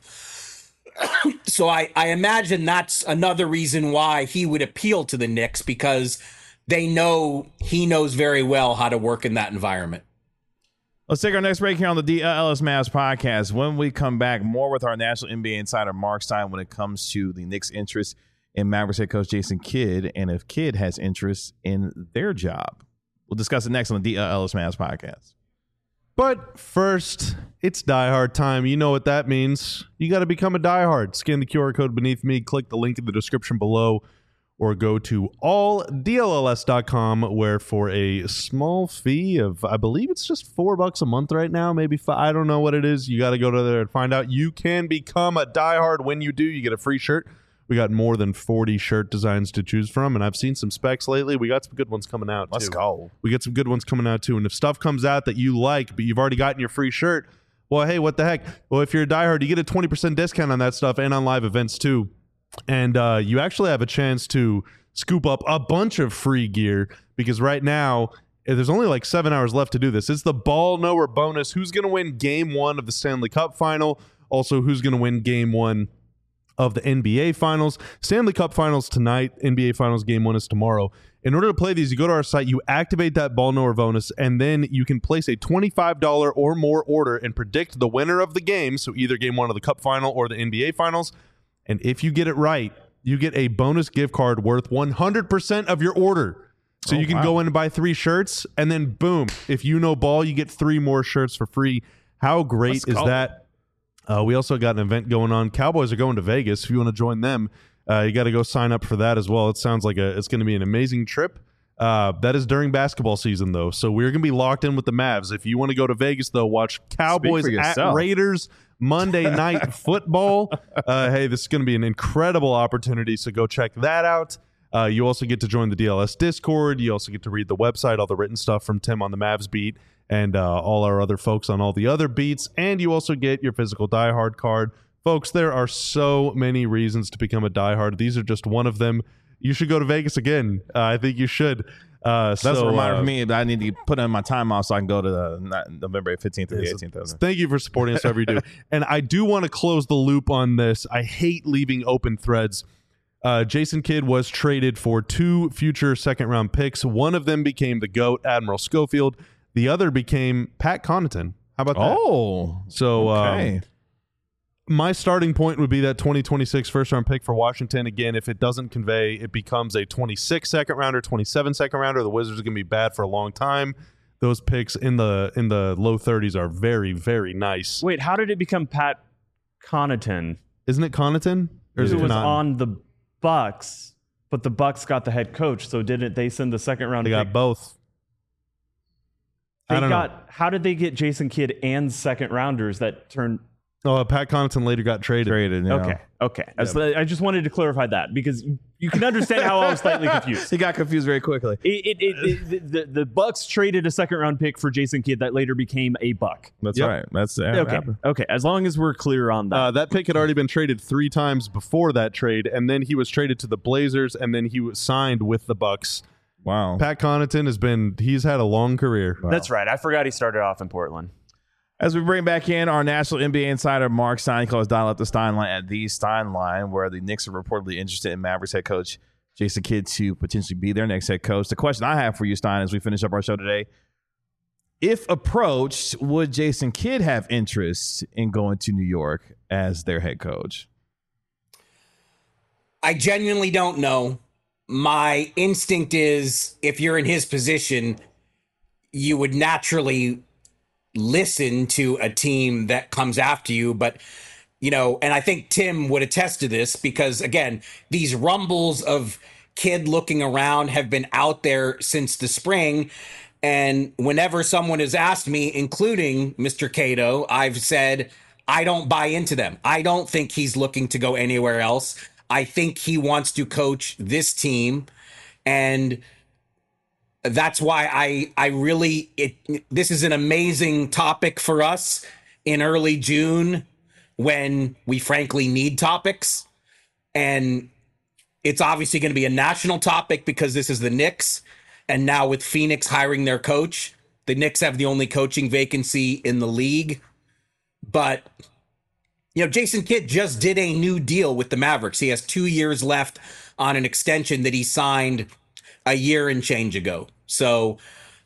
So I imagine that's another reason why he would appeal to the Knicks, because they know he knows very well how to work in that environment. Let's take our next break here on the Ellis Mavs podcast. When we come back, more with our national NBA insider Mark Stein when it comes to the Knicks' interest in Mavericks head coach Jason Kidd, and if Kidd has interest in their job. We'll discuss it next on the Ellis Mavs podcast. But first, it's Die Hard time. You know what that means. You got to become a Die Hard. Scan the QR code beneath me, click the link in the description below, or go to alldlls.com, where for a small fee of, I believe it's just $4 a month right now, maybe $5, I don't know what it is. You got to go to there and find out. You can become a Die Hard. When you do, you get a free shirt. We got more than 40 shirt designs to choose from, and I've seen some specs lately. We got some good ones coming out, too. Let's go. We got some good ones coming out, too. And if stuff comes out that you like, but you've already gotten your free shirt, well, hey, what the heck? Well, if you're a diehard, you get a 20% discount on that stuff and on live events, too. And you actually have a chance to scoop up a bunch of free gear, because right now, there's only like 7 hours left to do this. It's the Ball Knower bonus. Who's going to win Game 1 of the Stanley Cup Final? Also, who's going to win Game 1 of the NBA Finals? Stanley Cup Finals tonight, NBA Finals Game 1 is tomorrow. In order to play these, you go to our site, you activate that Ball Knower bonus, and then you can place a $25 or more order and predict the winner of the game, so either Game 1 of the Cup Final or the NBA Finals. And if you get it right, you get a bonus gift card worth 100% of your order. So you can go in and buy 3 shirts, and then boom, if you know ball, you get 3 more shirts for free. How great is that? We also got an event going on. Cowboys are going to Vegas. If you want to join them, you got to go sign up for that as well. It sounds like it's going to be an amazing trip. That is during basketball season, though. So we're going to be locked in with the Mavs. If you want to go to Vegas, though, watch Cowboys at Raiders Monday Night Football. Hey, this is going to be an incredible opportunity, so go check that out. You also get to join the DLS Discord. You also get to read the website, all the written stuff from Tim on the Mavs beat, and all our other folks on all the other beats. And you also get your physical Die Hard card. Folks, there are so many reasons to become a Die Hard. These are just one of them. You should go to Vegas again. I think you should. That's a reminder for me that I need to put in my time off so I can go to the November 15th or the 18th. Thank you for supporting us wherever you do. And I do want to close the loop on this. I hate leaving open threads. Jason Kidd was traded for 2 future second-round picks. One of them became the GOAT, Admiral Schofield. The other became Pat Connaughton. How about that? Oh, so okay. My starting point would be that 2026 first-round pick for Washington. Again, if it doesn't convey, it becomes a 26 second-rounder, 27 second-rounder. The Wizards are going to be bad for a long time. Those picks in the low 30s are very, very nice. Wait, how did it become Pat Connaughton? Isn't it Connaughton? Or is it was on the Bucks, but the Bucks got the head coach, so didn't they send the second-round pick? They got both. I don't know. How did they get Jason Kidd and second-rounders that turned... Oh, Pat Connaughton later got traded. Yeah. Okay. I just wanted to clarify that because you can understand how I was slightly confused. He got confused very quickly. The Bucks traded a second-round pick for Jason Kidd that later became a Buck. That's right. That's Okay. As long as we're clear on that. That pick had already been traded 3 times before that trade, and then he was traded to the Blazers, and then he was signed with the Bucks. Wow. Pat Connaughton he's had a long career. Wow. That's right. I forgot he started off in Portland. As we bring back in our national NBA insider, Mark Stein, he calls dial up the Steinline at the Steinline, where the Knicks are reportedly interested in Mavericks head coach Jason Kidd to potentially be their next head coach. The question I have for you, Stein, as we finish up our show today, if approached, would Jason Kidd have interest in going to New York as their head coach? I genuinely don't know. My instinct is if you're in his position, you would naturally listen to a team that comes after you. But, you know, and I think Tim would attest to this because, again, these rumbles of Kidd looking around have been out there since the spring. And whenever someone has asked me, including Mr. Cato, I've said, I don't buy into them. I don't think he's looking to go anywhere else. I think he wants to coach this team. And that's why this is an amazing topic for us in early June when we frankly need topics. And it's obviously going to be a national topic because this is the Knicks. And now with Phoenix hiring their coach, the Knicks have the only coaching vacancy in the league. But, you know, Jason Kidd just did a new deal with the Mavericks. He has 2 years left on an extension that he signed a year and change ago. So,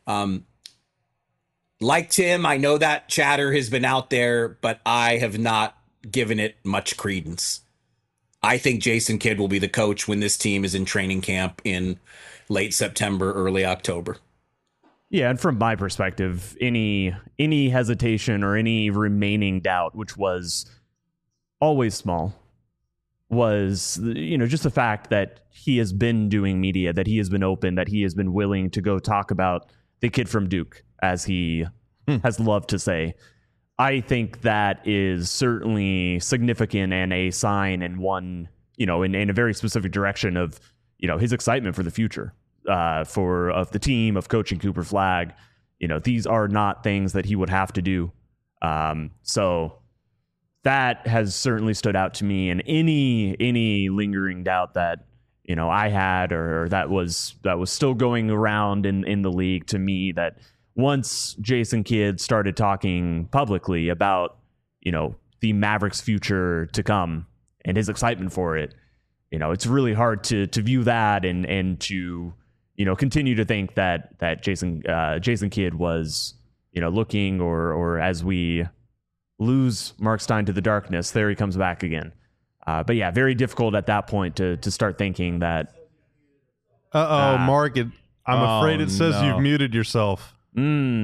like Tim, I know that chatter has been out there, but I have not given it much credence. I think Jason Kidd will be the coach when this team is in training camp in late September, early October. Yeah, and from my perspective, any hesitation or any remaining doubt, which was always small, was, you know, just the fact that he has been doing media, that he has been open, that he has been willing to go talk about the kid from Duke, as he has loved to say. I think that is certainly significant and a sign and one, you know, in a very specific direction of, you know, his excitement for the future, of the team, of coaching Cooper Flagg. You know, these are not things that he would have to do. So that has certainly stood out to me, and any lingering doubt that, you know, I had or that was still going around in the league, to me, that once Jason Kidd started talking publicly about, you know, the Mavericks' future to come and his excitement for it, you know, it's really hard to view that and to, you know, continue to think that Jason Kidd was, you know, looking or as we lose Mark Stein to the darkness, there he comes back again. But yeah, very difficult at that point to start thinking that. Mark, I'm afraid it says you've muted yourself. He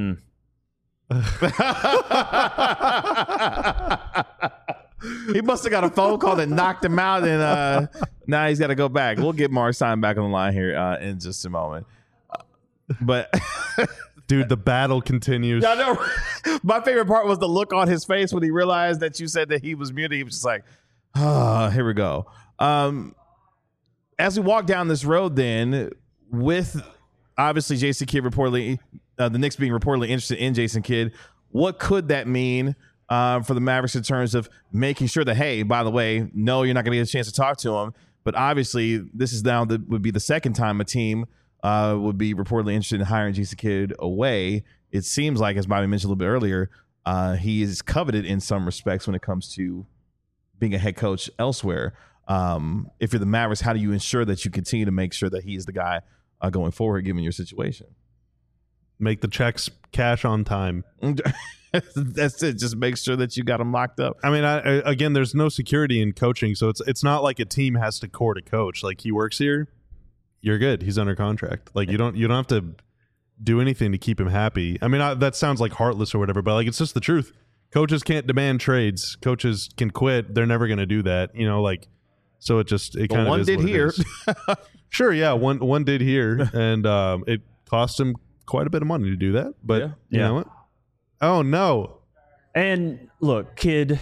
must have got a phone call that knocked him out, and now he's got to go back. We'll get Mark Stein back on the line here in just a moment. But dude, the battle continues. I know. My favorite part was the look on his face when he realized that you said that he was muted. He was just like, here we go. As we walk down this road, then, with obviously Jason Kidd reportedly, the Knicks being reportedly interested in Jason Kidd, what could that mean for the Mavericks in terms of making sure that, hey, by the way, no, you're not going to get a chance to talk to him. But obviously, this is now would be the second time a team would be reportedly interested in hiring Jason Kidd away. It seems like, as Bobby mentioned a little bit earlier, he is coveted in some respects when it comes to being a head coach elsewhere. If you're the Mavericks, how do you ensure that you continue to make sure that he is the guy going forward, given your situation? Make the checks cash on time. That's it. Just make sure that you got them locked up. I mean, again, there's no security in coaching, so it's not like a team has to court a coach. Like, he works here, you're good. He's under contract. Like, you don't have to do anything to keep him happy. I mean, that sounds like heartless or whatever, but like, it's just the truth. Coaches can't demand trades. Coaches can quit. They're never going to do that. You know, like, so it kind of one is did what here. Sure, yeah, one did here, and it cost him quite a bit of money to do that. But you know what? Oh no! And look, Kidd,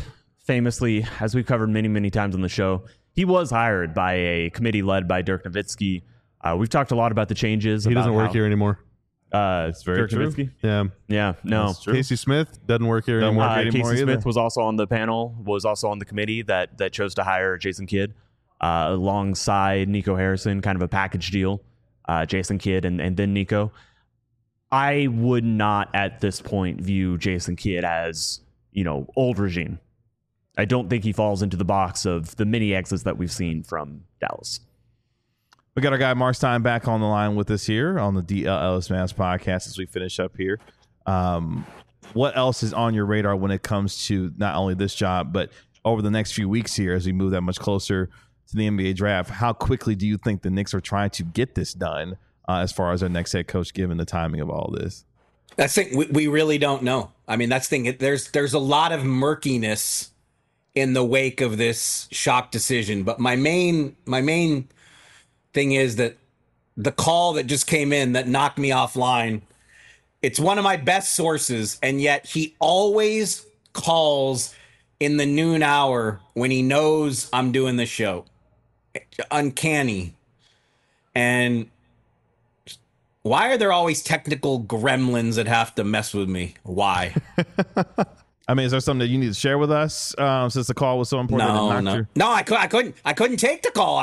famously, as we've covered many, many times on the show, he was hired by a committee led by Dirk Nowitzki. We've talked a lot about the changes. He doesn't work here anymore. It's very Dirk true. Nowitzki? Yeah. No. Casey Smith doesn't work here anymore. Casey Smith was also on the panel, was also on the committee that chose to hire Jason Kidd alongside Nico Harrison, kind of a package deal. Jason Kidd and then Nico. I would not at this point view Jason Kidd as, old regime. I don't think he falls into the box of the mini exits that we've seen from Dallas. We got our guy Mark Stein back on the line with us here on the DLS Mavs podcast as we finish up here. What else is on your radar when it comes to not only this job, but over the next few weeks here as we move that much closer to the NBA draft? How quickly do you think the Knicks are trying to get this done as far as their next head coach, given the timing of all this? That's the thing. We really don't know. I mean, that's the thing. There's a lot of murkiness in the wake of this shock decision. But my main thing is that the call that just came in that knocked me offline, it's one of my best sources, and yet he always calls in the noon hour when he knows I'm doing the show. Uncanny. And why are there always technical gremlins that have to mess with me? Why? I mean, is there something that you need to share with us since the call was so important? No, I couldn't take the call.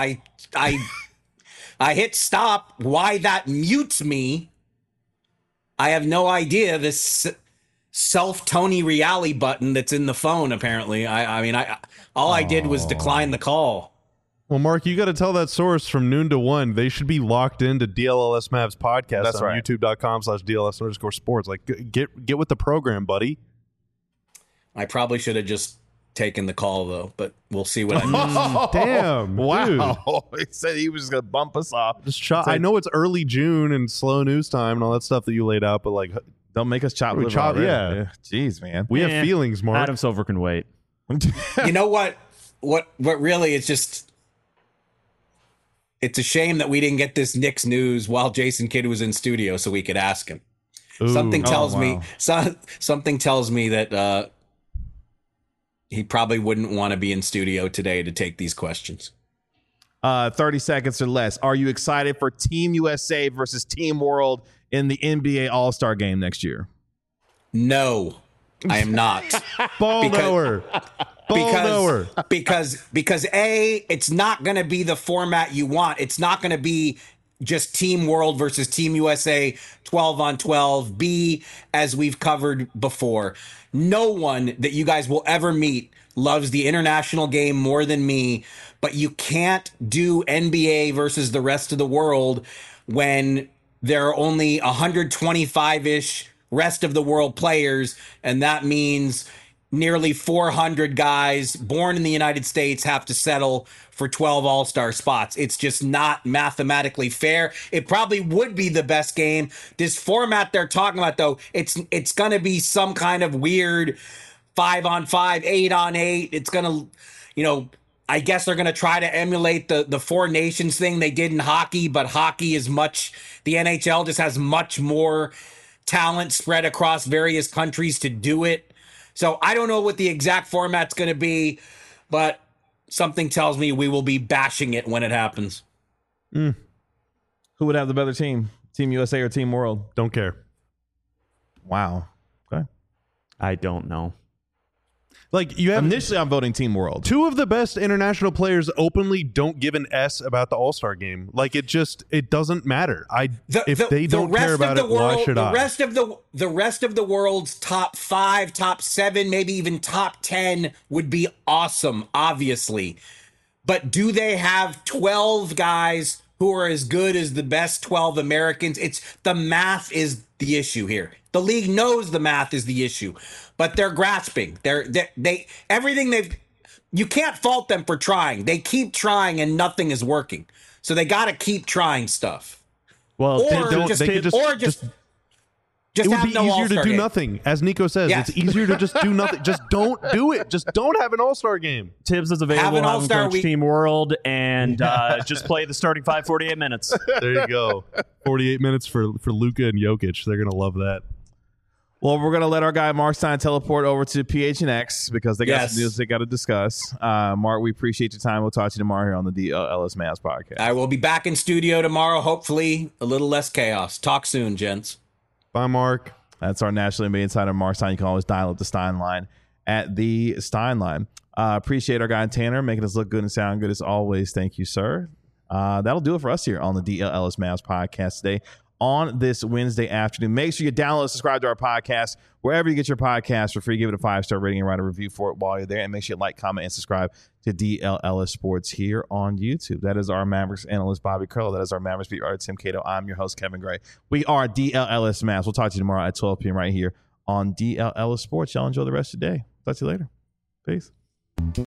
I hit stop. Why that mutes me, I have no idea. This self-Tony Reali button that's in the phone, apparently. I did was decline the call. Well, Mark, you got to tell that source from noon to 1, they should be locked into DLS Mavs podcast. That's on right. YouTube.com/DLS_sports. Like, get with the program, buddy. I probably should have just taken the call, though, but we'll see what I missed. Damn. Wow. He said he was just going to bump us off. I know it's early June and slow news time and all that stuff that you laid out, but like, don't make us chop liver chop, already. yeah. Jeez, man. We have feelings, Mark. Adam Silver can wait. You know what? What really, it's just, it's a shame that we didn't get this Knicks news while Jason Kidd was in studio so we could ask him. Ooh. Something tells me that he probably wouldn't want to be in studio today to take these questions. 30 seconds or less. Are you excited for Team USA versus Team World in the NBA All-Star game next year? No, I am not. Because A, it's not going to be the format you want. It's not going to be just Team World versus Team USA 12-on-12. B, as we've covered before, no one that you guys will ever meet loves the international game more than me, but you can't do NBA versus the rest of the world when there are only 125-ish rest of the world players, and that means nearly 400 guys born in the United States have to settle for 12 All-Star spots. It's just not mathematically fair. It probably would be the best game. This format they're talking about, though, it's going to be some kind of weird 5-on-5, 8-on-8. It's going to, I guess they're going to try to emulate the Four Nations thing they did in hockey, but hockey is the NHL just has much more talent spread across various countries to do it. So I don't know what the exact format's going to be, but something tells me we will be bashing it when it happens. Who would have the better team? Team USA or Team World? Don't care. Wow. Okay. I don't know. Like, you have initially, I'm voting Team World. Two of the best international players openly don't give an S about the All-Star game. Like, it doesn't matter. If they don't care about it, why should I? The rest of the world's top 5, top 7, maybe even top 10 would be awesome, obviously. But do they have 12 guys who are as good as the best 12 Americans? The math is the issue here. The league knows the math is the issue, but they're grasping. You can't fault them for trying. They keep trying and nothing is working. So they got to keep trying stuff. Well, it would be easier to do nothing. As Nico says, Yes. It's easier to just do nothing. Just don't do it. Just don't have an All-Star game. Tibbs is available. Have an All-Star coach week. Team World, and just play the starting 5 48 minutes. There you go. 48 minutes for Luka and Jokic. They're going to love that. Well, we're going to let our guy Mark Stein teleport over to PHNX because they got some news they got to discuss. Mark, we appreciate your time. We'll talk to you tomorrow here on the DLS Mavs podcast. I will be back in studio tomorrow. Hopefully a little less chaos. Talk soon, gents. Bye, Mark. That's our National NBA insider, Mark Stein. You can always dial up the Stein line at the Stein line. Appreciate our guy Tanner making us look good and sound good as always. Thank you, sir. That'll do it for us here on the DLS Mavs podcast today on this Wednesday afternoon. Make sure you download and subscribe to our podcast wherever you get your podcast for free. Give it a 5-star rating and write a review for it while you're there. And make sure you like, comment, and subscribe to DLS Sports here on YouTube. That is our Mavericks analyst, Bobby Curl. That is our Mavericks beat writer, Tim Cato. I'm your host, Kevin Gray. We are DLS Mavs. We'll talk to you tomorrow at 12 p.m. right here on DLS Sports. Y'all enjoy the rest of the day. Talk to you later. Peace.